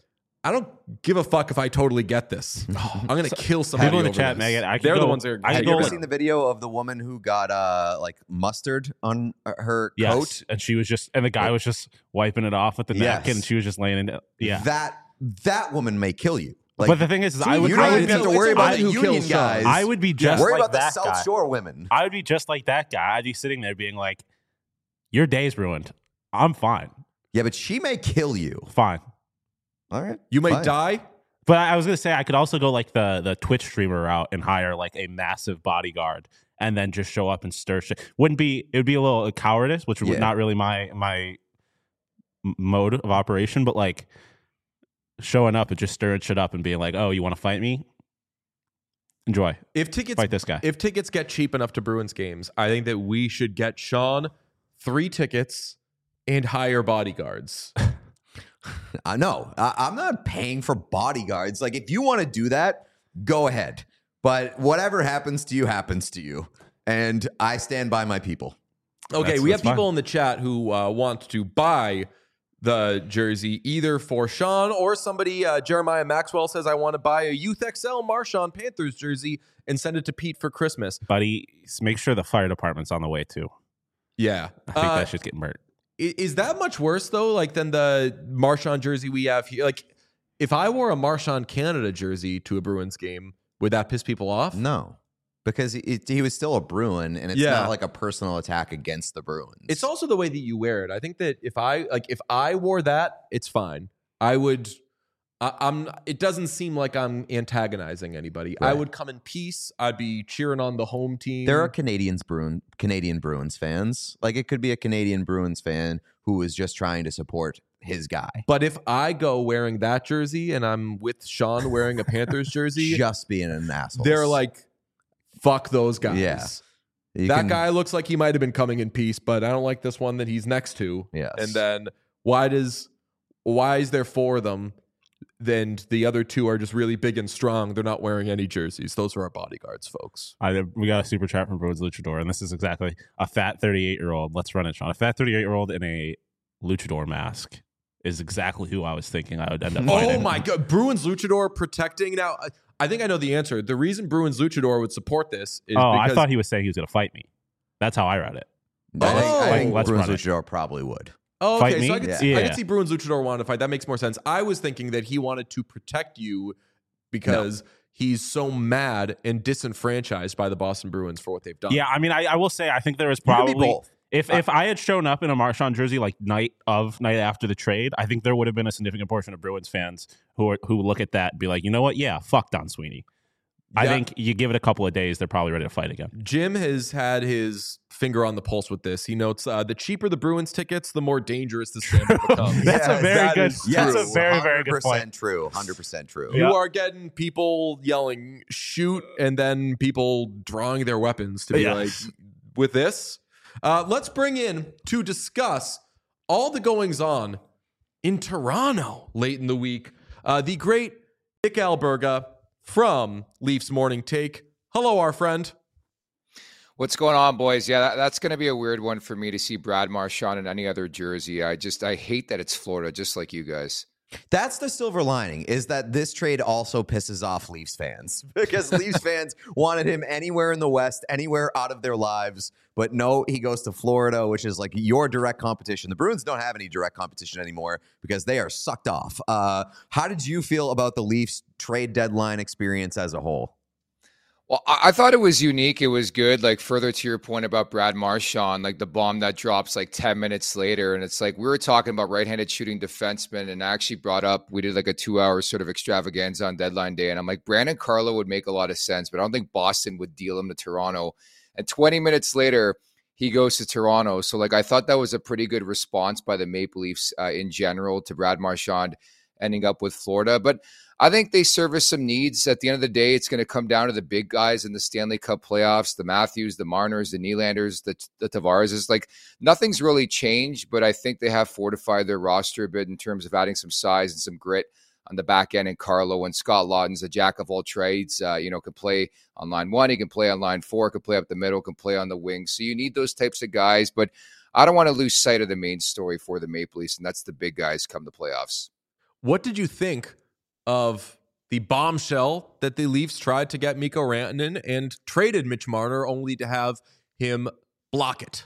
I don't give a fuck if I totally get this. I'm gonna kill somebody. People in the over chat, this. Megan, I could They're go- the ones that are. I could Have go you ever like- seen the video of the woman who got uh like mustard on her Yes. coat? And she was just, and the guy was just wiping it off with the Yes. napkin, and she was just laying in it. Yeah. That that woman may kill you. Like, but the thing is, is I would, you I don't would even have be, to worry about I- the who union kills Sean. guys. I would be just worry like about the that South guy. Shore women. I would be just like that guy. I'd be sitting there being like, your day's ruined. I'm fine. Yeah, but she may kill you. Fine. All right, You may fine. die. But I was gonna say I could also go like the the Twitch streamer route and hire like a massive bodyguard and then just show up and stir shit. Wouldn't be it would be a little cowardice, which would Yeah. not really my my m- mode of operation, but like showing up and just stirring shit up and being like, "Oh, you want to fight me? Enjoy. If tickets Fight this guy." if tickets get cheap enough to Bruins games, I think that we should get Sean three tickets and hire bodyguards. I know. I, I'm not paying for bodyguards. Like, if you want to do that, go ahead. But whatever happens to you, happens to you. And I stand by my people. Okay, That's- we have that's people fine. in the chat who uh, want to buy the jersey either for Sean or somebody. Uh, Jeremiah Maxwell says, I want to buy a Youth X L Marshawn Panthers jersey and send it to Pete for Christmas. Buddy, s- make sure the fire department's on the way too. Yeah. I think Uh, that shit's getting burnt. I- Is that much worse though, like than the Marshawn jersey we have here? Like, if I wore a Marshawn Canada jersey to a Bruins game, would that piss people off? No. Because he, he was still a Bruin, and it's Yeah. not like a personal attack against the Bruins. It's also the way that you wear it. I think that if I like, if I wore that, it's fine. I would. I, I'm. It doesn't seem like I'm antagonizing anybody. I Right. would come in peace. I'd be cheering on the home team. There are Canadians Bruin Canadian Bruins fans. Like, it could be a Canadian Bruins fan who is just trying to support his guy. But if I go wearing that jersey and I'm with Sean wearing a Panthers jersey, Just being an asshole. they're like, "Fuck those guys." Yeah. You that can- guy looks like he might have been coming in peace, but I don't like this one that he's next to. Yes. And then why does why is there four of them? Then the other two are just really big and strong. They're not wearing any jerseys. Those are our bodyguards, folks. I, we got a super chat from Bruins Luchador, and this is exactly a fat thirty-eight year old. Let's run it, Sean. A fat thirty-eight year old in a Luchador mask is exactly who I was thinking I would end up Oh fighting. my god, Bruins Luchador protecting now. I- I think I know the answer. The reason Bruins Luchador would support this is Oh, because I thought he was saying he was going to fight me. That's how I read it. I think, Oh. I think Let's Bruins run it. Luchador probably would. Oh, Fight okay, me? so I could, Yeah. see, I Yeah. could see Bruins Luchador wanted to fight. That makes more sense. I was thinking that he wanted to protect you because he's so mad and disenfranchised by the Boston Bruins for what they've done. Yeah, I mean, I, I will say I think there was You can be probably both. if if I had shown up in a Marshawn jersey like night of night after the trade, I think there would have been a significant portion of Bruins fans who are, who would look at that and be like, you know what? Yeah, fuck Don Sweeney. I Yeah. think you give it a couple of days, they're probably ready to fight again. Jim has had his finger on the pulse with this. He notes uh, the cheaper the Bruins tickets, the more dangerous the scandal becomes. That's a Yes, very that good. is That's true. a very very good one hundred percent point. true. one hundred percent true. You Yeah. are getting people yelling shoot and then people drawing their weapons to be Yes. like, with this. Uh, let's bring in to discuss all the goings on in Toronto late in the week. Uh, the great Nick Alberga from Leafs Morning Take. Hello, our friend. What's going on, boys? Yeah, that, that's going to be a weird one for me to see Brad Marchand in any other jersey. I just, I hate that it's Florida, just like you guys. That's the silver lining, is that this trade also pisses off Leafs fans because Leafs fans wanted him anywhere in the West, anywhere out of their lives. But no, he goes to Florida, which is like your direct competition. The Bruins don't have any direct competition anymore because they are sucked off. Uh, how did you feel about the Leafs trade deadline experience as a whole? Well, I, I thought it was unique. It was good. Like, further to your point about Brad Marchand, like the bomb that drops like ten minutes later. And it's like, we were talking about right-handed shooting defensemen, and I actually brought up, we did like a two hour sort of extravaganza on deadline day. And I'm like, Brandon Carlo would make a lot of sense, but I don't think Boston would deal him to Toronto. And twenty minutes later, he goes to Toronto. So like, I thought that was a pretty good response by the Maple Leafs uh, in general to Brad Marchand ending up with Florida. But I think they service some needs. At the end of the day, it's going to come down to the big guys in the Stanley Cup playoffs, the Matthews, the Marners, the Nylanders, the, the Tavares. It's like nothing's really changed, but I think they have fortified their roster a bit in terms of adding some size and some grit on the back end. And Carlo and Scott Lawton's a jack of all trades, uh, you know, can play on line one, he can play on line four, can play up the middle, can play on the wing. So you need those types of guys, but I don't want to lose sight of the main story for the Maple Leafs, and that's the big guys come the playoffs. What did you think of the bombshell that the Leafs tried to get Mikko Rantanen and traded Mitch Marner only to have him block it.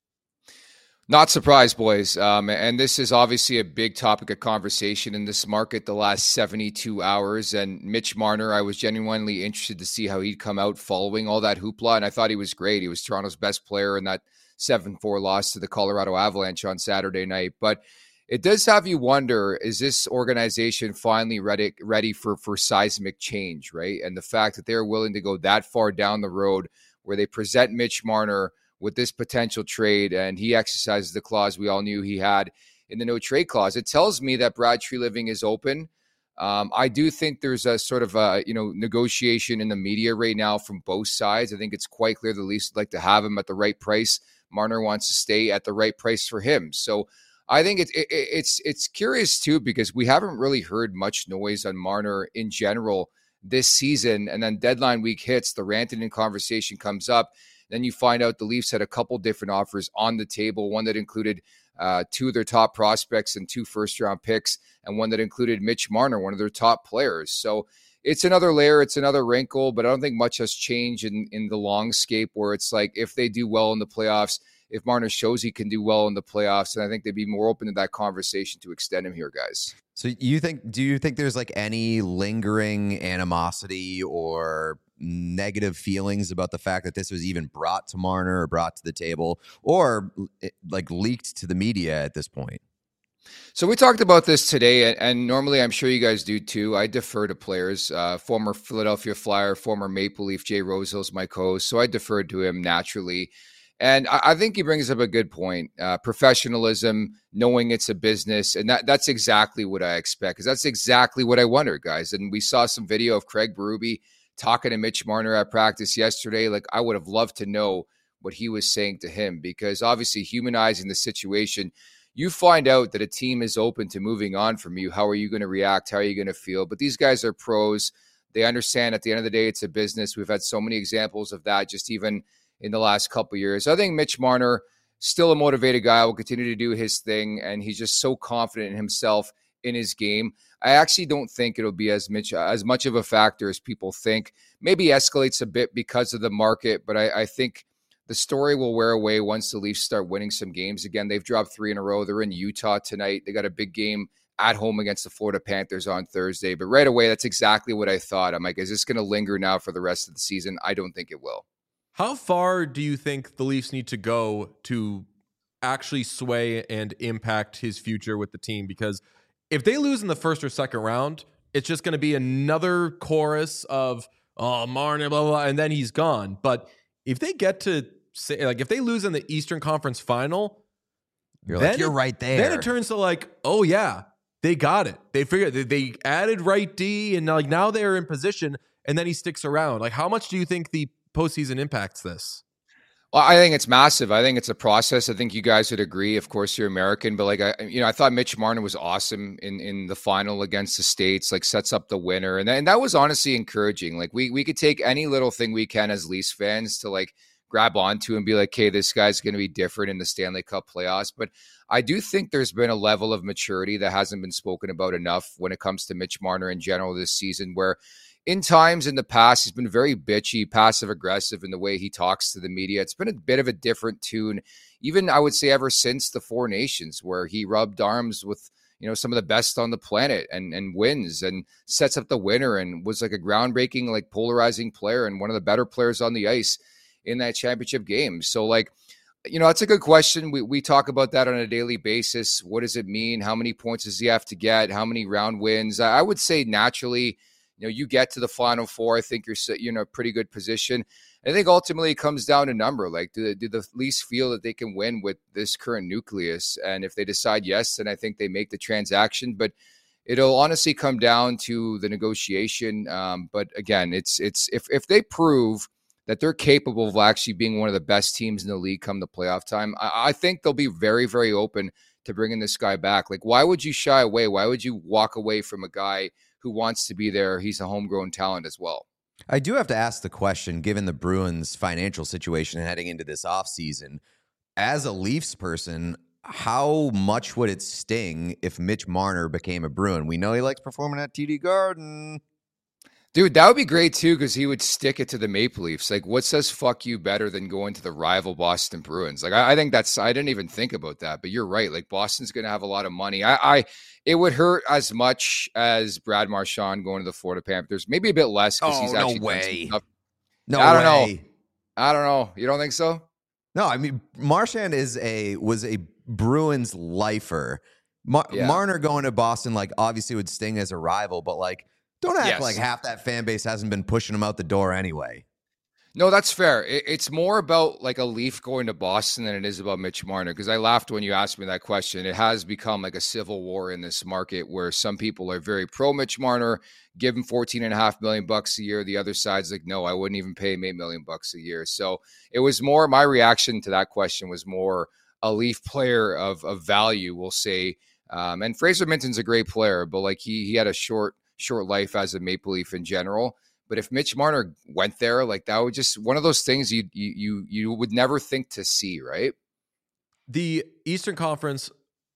Not surprised, boys. Um, and this is obviously a big topic of conversation in this market the last seventy-two hours. And Mitch Marner, I was genuinely interested to see how he'd come out following all that hoopla. And I thought he was great. He was Toronto's best player in that seven four loss to the Colorado Avalanche on Saturday night. But it does have you wonder, is this organization finally ready, ready for, for seismic change, right? And the fact that they're willing to go that far down the road where they present Mitch Marner with this potential trade, and he exercises the clause we all knew he had in the no trade clause. It tells me that Brad Treliving is open. Um, I do think there's a sort of a, you know, negotiation in the media right now from both sides. I think it's quite clear the Leafs would like to have him at the right price. Marner wants to stay at the right price for him. So I think it's it, it's it's curious too, because we haven't really heard much noise on Marner in general this season. And then deadline week hits, the Rantanen conversation comes up. Then you find out the Leafs had a couple different offers on the table, one that included uh, two of their top prospects and two first-round picks, and one that included Mitch Marner, one of their top players. So it's another layer, it's another wrinkle, but I don't think much has changed in, in the longscape where it's like if they do well in the playoffs, if Marner shows he can do well in the playoffs, then I think they'd be more open to that conversation to extend him here, guys. So you think, do you think there's like any lingering animosity or negative feelings about the fact that this was even brought to Marner or brought to the table or like leaked to the media at this point? So we talked about this today, and normally I'm sure you guys do too. I defer to players. Uh, former Philadelphia Flyer, former Maple Leaf, Jay Rosehill's my co-host, so I deferred to him naturally. And I think he brings up a good point. Uh, professionalism, knowing it's a business, and that, that's exactly what I expect, because that's exactly what I wonder, guys. And we saw some video of Craig Berube talking to Mitch Marner at practice yesterday. Like, I would have loved to know what he was saying to him, because obviously humanizing the situation, you find out that a team is open to moving on from you. How are you going to react? How are you going to feel? But these guys are pros. They understand at the end of the day, it's a business. We've had so many examples of that just even in the last couple of years. I think Mitch Marner, still a motivated guy, will continue to do his thing, and he's just so confident in himself, in his game. I actually don't think it'll be as much, as much of a factor as people think. Maybe escalates a bit because of the market, but I, I think the story will wear away once the Leafs start winning some games again. They've dropped three in a row. They're in Utah tonight. They got a big game at home against the Florida Panthers on Thursday. But right away, that's exactly what I thought. I'm like, is this going to linger now for the rest of the season? I don't think it will. How far do you think the Leafs need to go to actually sway and impact his future with the team? Because if they lose in the first or second round, it's just going to be another chorus of, oh, Marner, blah, blah, blah, and then he's gone. But if they get to, say, like, if they lose in the Eastern Conference Final, you're like, you're right there. Then it turns to like, oh, yeah, they got it. They figured, they, they added right D, and like now they're in position, and then he sticks around. Like, how much do you think the postseason impacts this? Well, I think it's massive. I think it's a process. I think you guys would agree. Of course, you're American, but like, I, you know, I thought Mitch Marner was awesome in, in the final against the States, like sets up the winner. And, and that was honestly encouraging. Like we, we could take any little thing we can as Leafs fans to like grab onto and be like, hey, this guy's going to be different in the Stanley Cup playoffs. But I do think there's been a level of maturity that hasn't been spoken about enough when it comes to Mitch Marner in general this season, where in times in the past, he's been very bitchy, passive-aggressive in the way he talks to the media. It's been a bit of a different tune, even I would say ever since the Four Nations, where he rubbed arms with, you know, some of the best on the planet and and wins and sets up the winner and was like a groundbreaking, like polarizing player and one of the better players on the ice in that championship game. So like, you know, that's a good question. We we talk about that on a daily basis. What does it mean? How many points does he have to get? How many round wins? I would say naturally, you know, you get to the Final Four, I think you're, you're in a pretty good position. I think ultimately it comes down to number. Like, do, do the Leafs feel that they can win with this current nucleus? And if they decide yes, then I think they make the transaction. But it'll honestly come down to the negotiation. Um, but again, it's it's if if they prove that they're capable of actually being one of the best teams in the league come the playoff time, I, I think they'll be very, very open to bringing this guy back. Like, why would you shy away? Why would you walk away from a guy who wants to be there? He's a homegrown talent as well. I do have to ask the question, given the Bruins' financial situation heading into this offseason, as a Leafs person, how much would it sting if Mitch Marner became a Bruin? We know he likes performing at T D Garden. Dude, that would be great too, because he would stick it to the Maple Leafs. Like, what says fuck you better than going to the rival Boston Bruins? Like, I, I think that's, I didn't even think about that, but you're right. Like, Boston's going to have a lot of money. I, I, it would hurt as much as Brad Marchand going to the Florida Panthers. Maybe a bit less because Oh, he's no actually done way. some stuff. No I don't way. know. I don't know. You don't think so? No, I mean Marchand is a was a Bruins lifer. Mar- Yeah. Marner going to Boston, like, obviously would sting as a rival, but like, don't act Yes. like half that fan base hasn't been pushing him out the door anyway. No, that's fair. It, it's more about like a Leaf going to Boston than it is about Mitch Marner. Because I laughed when you asked me that question. It has become like a civil war in this market where some people are very pro Mitch Marner, give him fourteen and a half million bucks a year. The other side's like, no, I wouldn't even pay him eight million bucks a year. So it was more, my reaction to that question was more a Leaf player of, of value, we'll say. Um, and Fraser Minton's a great player, but like he, he had a short, short life as a Maple Leaf in general. But if Mitch Marner went there, like that would just one of those things you you you you would never think to see, right? The Eastern Conference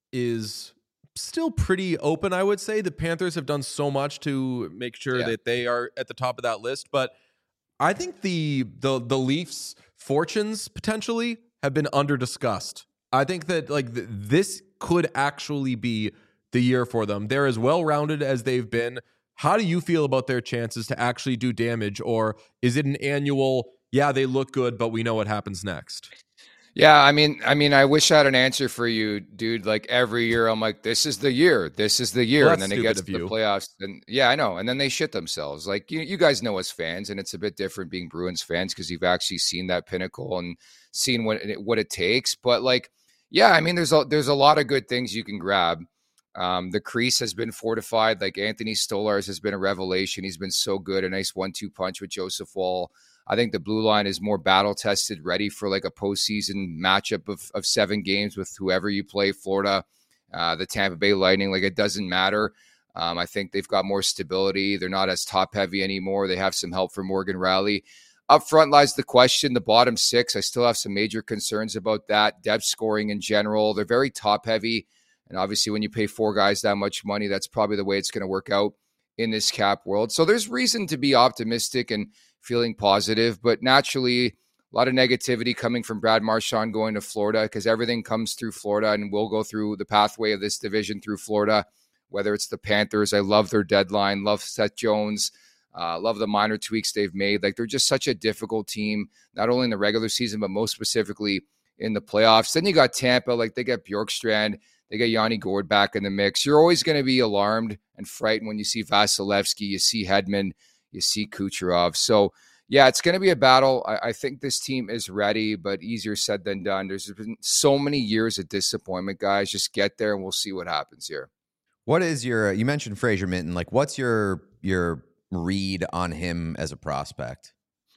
is still pretty open, I would say. The Panthers have done so much to make sure Yeah. that they are at the top of that list, but I think the the the Leafs' fortunes potentially have been under discussed. I think that like th- this could actually be the year for them. They're as well-rounded as they've been. How do you feel about their chances to actually do damage? Or is it an annual, yeah, they look good, but we know what happens next? Yeah, I mean, I mean, I wish I had an answer for you, dude. Like every year, I'm like, this is the year, this is the year, Well, and that's then it stupid gets of to the you. playoffs, and yeah, I know, and then they shit themselves. Like you, you guys know as fans, and it's a bit different being Bruins fans because you've actually seen that pinnacle and seen what it, what it takes. But like, yeah, I mean, there's a there's a lot of good things you can grab. Um, the crease has been fortified. Like Anthony Stolarz has been a revelation. He's been so good. A nice one two punch with Joseph Wall. I think the blue line is more battle tested, ready for like a postseason matchup of, of seven games with whoever you play, Florida, uh, the Tampa Bay Lightning. Like it doesn't matter. Um, I think they've got more stability. They're not as top heavy anymore. They have some help from Morgan Riley. Up front lies the question, the bottom six. I still have some major concerns about that. Depth scoring in general. They're very top heavy. And obviously, when you pay four guys that much money, that's probably the way it's going to work out in this cap world. So there's reason to be optimistic and feeling positive, but naturally, a lot of negativity coming from Brad Marchand going to Florida because everything comes through Florida and will go through the pathway of this division through Florida, whether it's the Panthers. I love their deadline, love Seth Jones, uh, love the minor tweaks they've made. Like they're just such a difficult team, not only in the regular season, but most specifically in the playoffs. Then you got Tampa, like they got Bjorkstrand. They got Yanni Gourde back in the mix. You're always going to be alarmed and frightened when you see Vasilevsky, you see Hedman, you see Kucherov. So, yeah, it's going to be a battle. I, I think this team is ready, but easier said than done. There's been so many years of disappointment, guys. Just get there and we'll see what happens here. What is your? You mentioned Fraser Minton. Like, what's your your read on him as a prospect?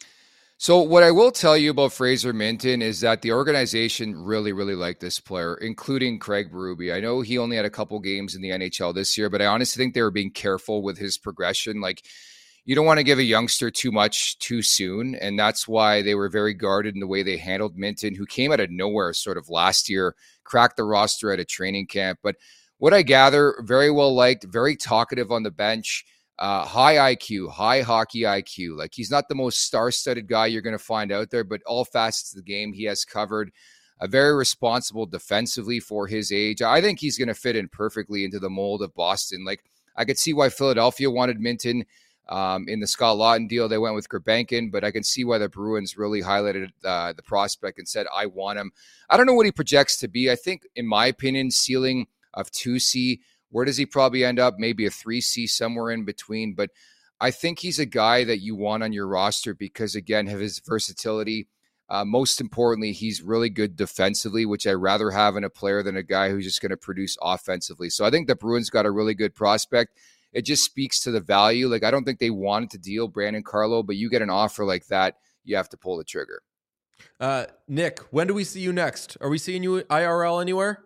So what I will tell you about Fraser Minton is that the organization really, really liked this player, including Craig Berube. I know he only had a couple games in the N H L this year, but I honestly think they were being careful with his progression. Like, you don't want to give a youngster too much too soon, and that's why they were very guarded in the way they handled Minton, who came out of nowhere sort of last year, cracked the roster at a training camp. But what I gather, very well liked, very talkative on the bench. Uh, high I Q, high hockey I Q. Like he's not the most star-studded guy you're going to find out there, but all facets of the game he has covered. A very responsible defensively for his age. I think he's going to fit in perfectly into the mold of Boston. Like I could see why Philadelphia wanted Minton um, in the Scott Laughton deal. They went with Gurbankin, but I can see why the Bruins really highlighted uh, the prospect and said, I want him. I don't know what he projects to be. I think, in my opinion, ceiling of two C. Where does he probably end up? Maybe a three C, somewhere in between. But I think he's a guy that you want on your roster because, again, of his versatility. Uh, most importantly, he's really good defensively, which I'd rather have in a player than a guy who's just going to produce offensively. So I think the Bruins got a really good prospect. It just speaks to the value. Like, I don't think they wanted to deal Brandon Carlo, but you get an offer like that, you have to pull the trigger. Uh, Nick, when do we see you next? Are we seeing you I R L anywhere?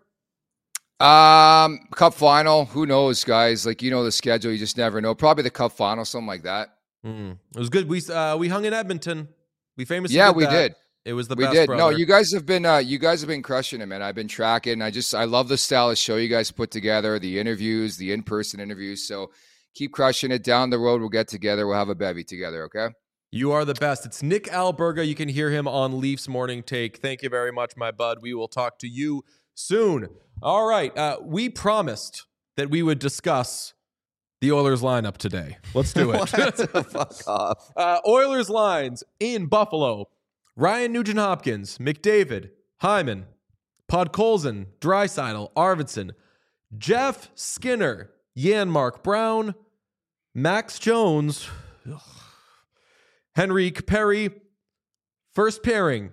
Um, Cup final, who knows, guys? Like, you know the schedule, you just never know. Probably the Cup final, something like that. Mm. It was good. We uh, we hung in Edmonton. We famously Yeah, did we that. did. It was the we best. did. Brother. No, you guys have been uh, you guys have been crushing it, man. I've been tracking. I just I love the style of show you guys put together, the interviews, the in person interviews. So keep crushing it. Down the road, we'll get together. We'll have a bevy together. Okay. You are the best. It's Nick Alberga. You can hear him on Leafs Morning Take. Thank you very much, my bud. We will talk to you soon. All right. Uh, we promised that we would discuss the Oilers lineup today. Let's do it. Fuck off. Uh, Oilers lines in Buffalo. Ryan Nugent-Hopkins, McDavid, Hyman, Podkolzin, Draisaitl, Arvidsson, Jeff Skinner, Janmark Brown, Max Jones, ugh, Henrique Perry, first pairing,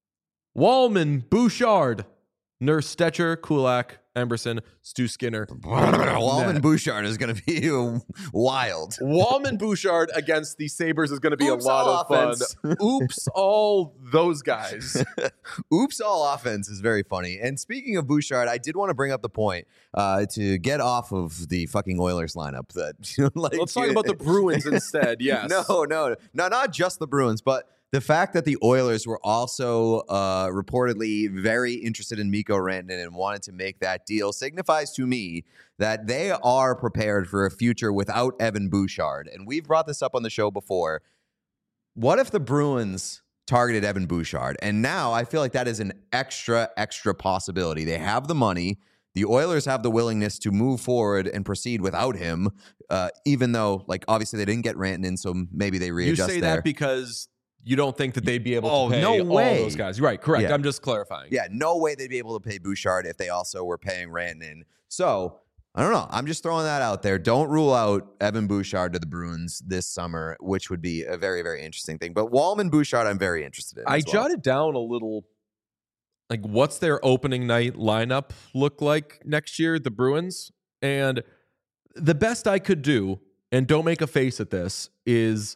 Wallman, Bouchard, Nurse Stetcher, Kulak, Emberson, Stu Skinner. Wallman Bouchard is going to be wild. Wallman Bouchard against the Sabres is going to be Oops, a lot all of fun. offense. Oops, all those guys. Oops, all offense is very funny. And speaking of Bouchard, I did want to bring up the point uh, to get off of the fucking Oilers lineup. That like, Let's talk about the Bruins instead. Yes. No, no, no, not just the Bruins, but the fact that the Oilers were also uh, reportedly very interested in Mikko Rantanen and wanted to make that deal signifies to me that they are prepared for a future without Evan Bouchard. And we've brought this up on the show before. What if the Bruins targeted Evan Bouchard? And now I feel like that is an extra, extra possibility. They have the money. The Oilers have the willingness to move forward and proceed without him, uh, even though, like, obviously they didn't get Rantanen, so maybe they readjust You say there. that because you don't think that they'd be able Oh, to pay no all way. those guys. Right, correct. Yeah. I'm just clarifying. Yeah, no way they'd be able to pay Bouchard if they also were paying Rantanen. So, I don't know. I'm just throwing that out there. Don't rule out Evan Bouchard to the Bruins this summer, which would be a very, very interesting thing. But Wallman Bouchard, I'm very interested in. I as well. jotted down a little, like, what's their opening night lineup look like next year, the Bruins? And the best I could do, and don't make a face at this, is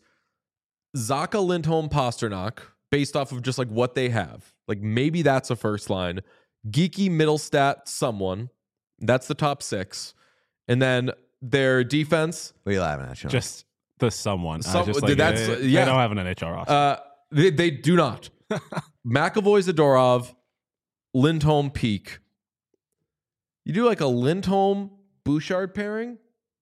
Zaka, Lindholm, Pasternak, based off of just like what they have. Like maybe that's a first line. Geeky, Middlestat, someone. That's the top six. And then their defense. What are you laughing at, Sean? Just the someone. Some- I just like, that's- they, yeah. they don't have an N H L roster. Uh, they, they do not. McAvoy, Zadorov, Lindholm, Peak. You do like a Lindholm Bouchard pairing?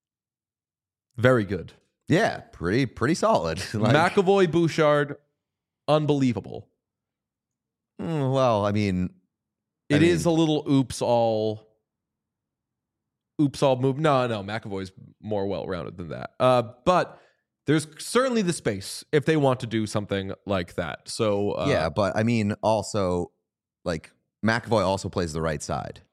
Very good. yeah, pretty, pretty solid. Like, McAvoy, Bouchard, unbelievable. mm, well, I mean, I It is mean- a little oops all oops all move. No, no, McAvoy's more well-rounded than that. Uh, but there's certainly the space if they want to do something like that. So uh, yeah, but I mean, also, like, McAvoy also plays the right side.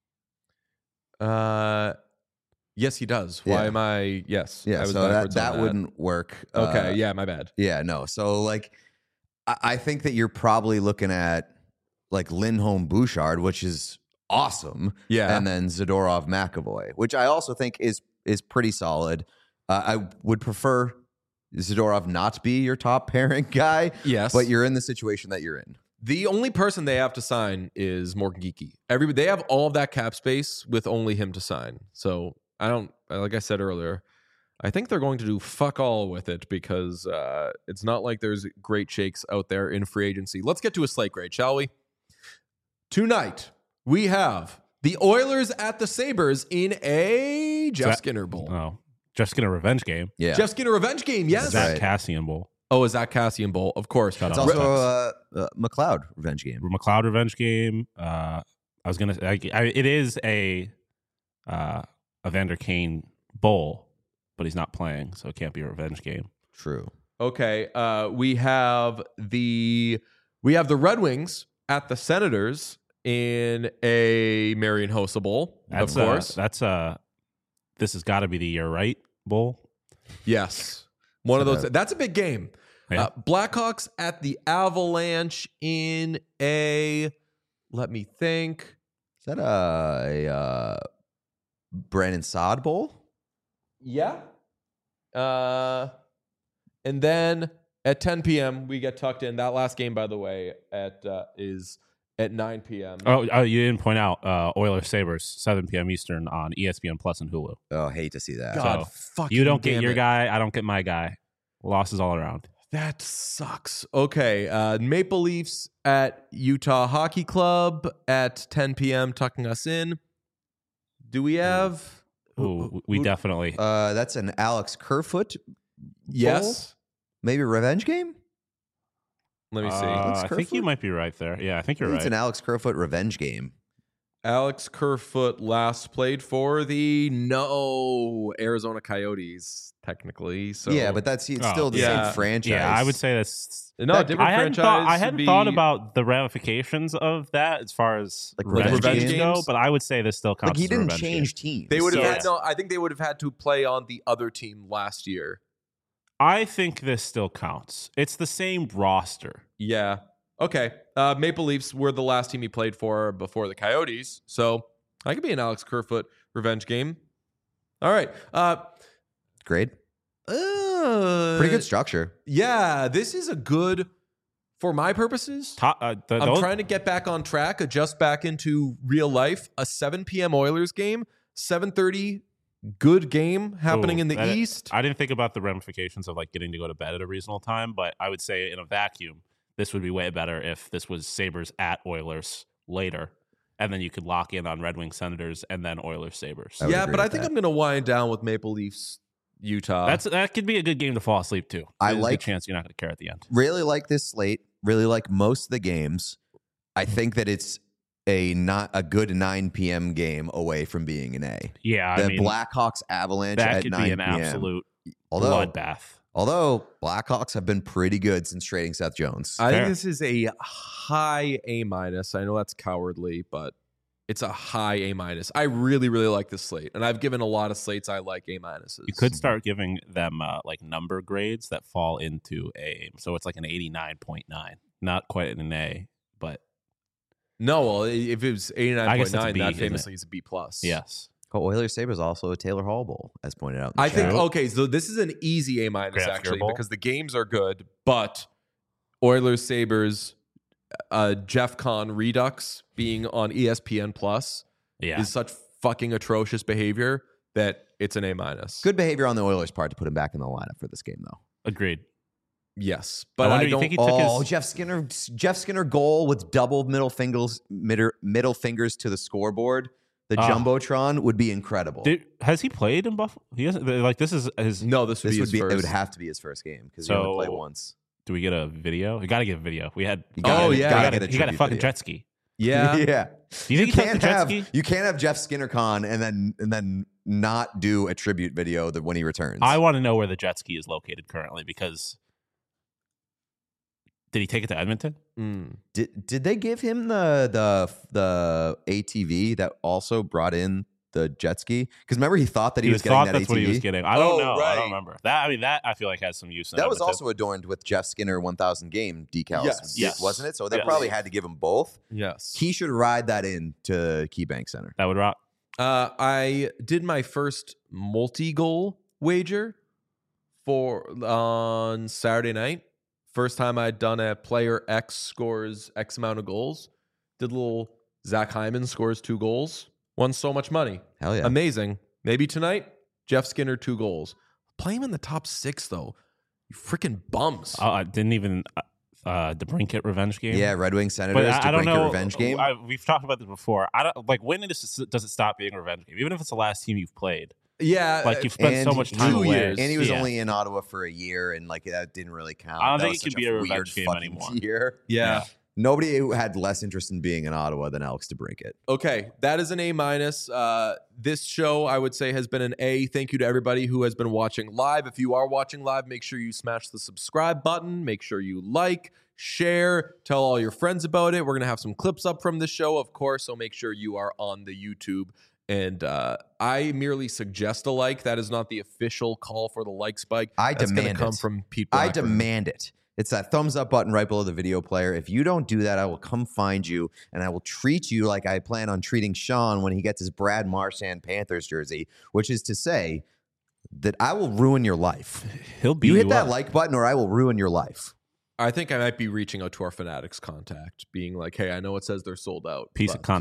Uh, yes, he does. Why Yeah. am I? Yes. I Yeah, was so that, backwards on that wouldn't work. Okay. Uh, yeah, my bad. Yeah, no. So, like, I, I think that you're probably looking at, like, Lindholm Bouchard, which is awesome. Yeah. And then Zadorov McAvoy, which I also think is is pretty solid. Uh, I would prefer Zadorov not be your top pairing guy, Yes. but you're in the situation that you're in. The only person they have to sign is Morgan Geeky. Everybody, they have all of that cap space with only him to sign. So I don't, like I said earlier, I think they're going to do fuck all with it because uh, it's not like there's great shakes out there in free agency. Let's get to a slate grade, shall we? Tonight, we have the Oilers at the Sabres in a Jeff that- Skinner Bowl. oh, just get a revenge game. Yeah. Jeff Skinner revenge game, yes. Zach right. Cassian Bowl. Oh, is that Cassian Bowl? Of course. Shut it's up. also Offense. a uh, uh, McLeod revenge game. McLeod revenge game. Uh, I was gonna. I, I, it is a uh, Evander Kane bowl, but he's not playing, so it can't be a revenge game. True. Okay, uh, we have the we have the Red Wings at the Senators in a Marion Hossa Bowl, That's of course. Uh, that's uh This has got to be the year right bowl. Yes, one of So those. that- That's a big game. Yeah. Uh, Blackhawks at the Avalanche in a. Let me think. Is that a, a uh, Brandon Saad Bowl? Yeah. Uh, and then at ten p.m. we get tucked in. That last game, by the way, at uh, is at nine p.m. Oh, oh, you didn't point out uh, Oilers Sabres seven p.m. Eastern on E S P N Plus and Hulu. Oh, hate to see that. God, So, fucking You don't get damn your it. guy. I don't get my guy. Losses all around. That sucks. Okay. Uh, Maple Leafs at Utah Hockey Club at ten p.m. tucking us in. Do we have? Ooh, we who- definitely. Uh, that's an Alex Kerfoot. Yes. Maybe a revenge game. Let me see. Uh, Alex I think you Kerfoot? might be right there. Yeah, I think you're I think right. It's an Alex Kerfoot revenge game. Alex Kerfoot last played for the no Arizona Coyotes, technically. So yeah, but that's it's Oh, still the yeah. same franchise. Yeah, I would say that's. no that- different I hadn't franchise. thought. I would hadn't be- thought about the ramifications of that as far as Like revenge, revenge games games? go, but I would say this still counts. like he as a didn't revenge change game. teams. They would have So- had no. I think they would have had to play on the other team last year. I think this still counts. It's the same roster. Yeah. Okay. Uh, Maple Leafs were the last team he played for before the Coyotes, so I could be an Alex Kerfoot revenge game. All right. Uh, Great. uh, Pretty good structure. Yeah, this is a good for my purposes. Top, uh, the, I'm those- trying to get back on track, adjust back into real life. A seven p.m. Oilers game, seven thirty, good game happening Ooh, in the that- East. I didn't think about the ramifications of like getting to go to bed at a reasonable time, but I would say in a vacuum, this would be way better if this was Sabres at Oilers later, and then you could lock in on Red Wings Senators and then Oilers Sabres. I would Yeah, agree but I with think that. I'm going to wind down with Maple Leafs, Utah. That's that could be a good game to fall asleep to. I There's a like- good chance you're not going to care at the end. Really like this slate. Really like most of the games. I think that it's a not a good nine p.m. game away from being an A. Yeah, The I mean Blackhawks Avalanche that at could nine be an p.m. absolute Although bloodbath. although Blackhawks have been pretty good since trading Seth Jones. I Fair. think this is a high A minus. I know that's cowardly, but it's a high A minus. I really, really like this slate, and I've given a lot of slates I like A minuses. You could start giving them uh, like number grades that fall into a, so it's like an eighty-nine point nine, not quite an A, but No, well, if it was I eighty-nine guess point that's a nine, B, that isn't it? famously is a B plus. yes. Oh, Oilers Sabres also a Taylor Hall Bowl, as pointed out. In the I think chat. okay, so this is an easy A minus Grant actually Fuhrer Bowl? because the games are good, but Oilers Sabres, uh, Jeff Kahn Redux being on E S P N Plus Yeah. is such fucking atrocious behavior that it's an A minus. good behavior on the Oilers' part to put him back in the lineup for this game, though. Agreed. Yes, I but I, wonder, you don't. think he took Oh, his- Jeff Skinner! Jeff Skinner goal with double middle fingers, middle, middle fingers to the scoreboard. The Ah. jumbotron would be incredible. Did, has he played in Buffalo? He hasn't. Like this is his. no, this would this be would his be first. it would have to be his first game because he only So- played once. Do we get a video? We got to get a video. We had. You gotta- Oh, you yeah. gotta He got get a, he got a tribute fucking video. jet ski. yeah. yeah. Do you think he took the can't jet have ski? you can't have Jeff Skinner con and then and then not do a tribute video that when he returns. I want to know where the jet ski is located currently because did he take it to Edmonton? Mm. did did they give him the the the A T V that also brought in the jet ski? Because remember he thought that he, He was getting thought that that's A T V. what he was getting. I don't Oh, know. I right. don't remember that. I mean, that I feel like has some use. In That was Edmonton. also adorned with Jeff Skinner one thousand game decals, Yes. Yes. wasn't it? So they Yes. probably had to give him both. Yes. He should ride that in to KeyBank Center. that would rock. Uh, I did my first multi-goal wager for on Saturday night. First time I'd done a player X scores X amount of goals. Did a little Zach Hyman scores two goals. Won so much money. Hell yeah. Amazing. Maybe tonight, Jeff Skinner two goals. Play him in the top six though. You freaking bums. Uh, I didn't even uh, uh, the Brinket revenge game. Yeah, Red Wing Senators But I, to I don't break know. your revenge game. I, we've talked about this before. I don't like when does it, does it stop being a revenge game? Even if it's the last team you've played, yeah, like you've spent so and much he- time two away. years. and he was Yeah. only in Ottawa for a year, and like that didn't really count. I don't That think was it could such be a revenge weird game fucking anymore. Year. yeah. Nobody who had less interest in being in Ottawa than Alex DeBrincat. Okay, that is an A minus. Uh, this show, I would say, has been an A. Thank you to everybody who has been watching live. If you are watching live, make sure you smash the subscribe button. Make sure you like, share, tell all your friends about it. We're gonna have some clips up from the show, of course. So make sure you are on the YouTube. And uh, I merely suggest a like. That is not the official call for the like spike. I That's gonna demand come it. from Pete. I Blackburn. demand it. It's that thumbs up button right below the video player. If you don't do that, I will come find you and I will treat you like I plan on treating Sean when he gets his Brad Marchand Panthers jersey, which is to say that I will ruin your life. He'll beat You you, hit that up. like button or I will ruin your life. I think I might be reaching out to our Fanatics contact, being like, "Hey, I know it says they're sold out. piece but of content.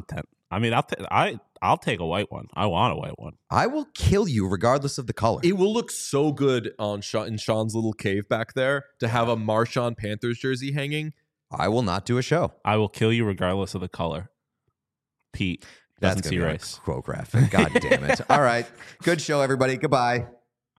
I mean, I'll t- I I'll take a white one. I want a white one. I will kill you regardless of the color. It will look so good on Sean, in Sean's little cave back there to have a Marshawn Panthers jersey hanging. I will not do a show. I will kill you regardless of the color. Pete That's doesn't gonna see be race. like quote graphic. God damn it. All right. Good show, everybody. Goodbye.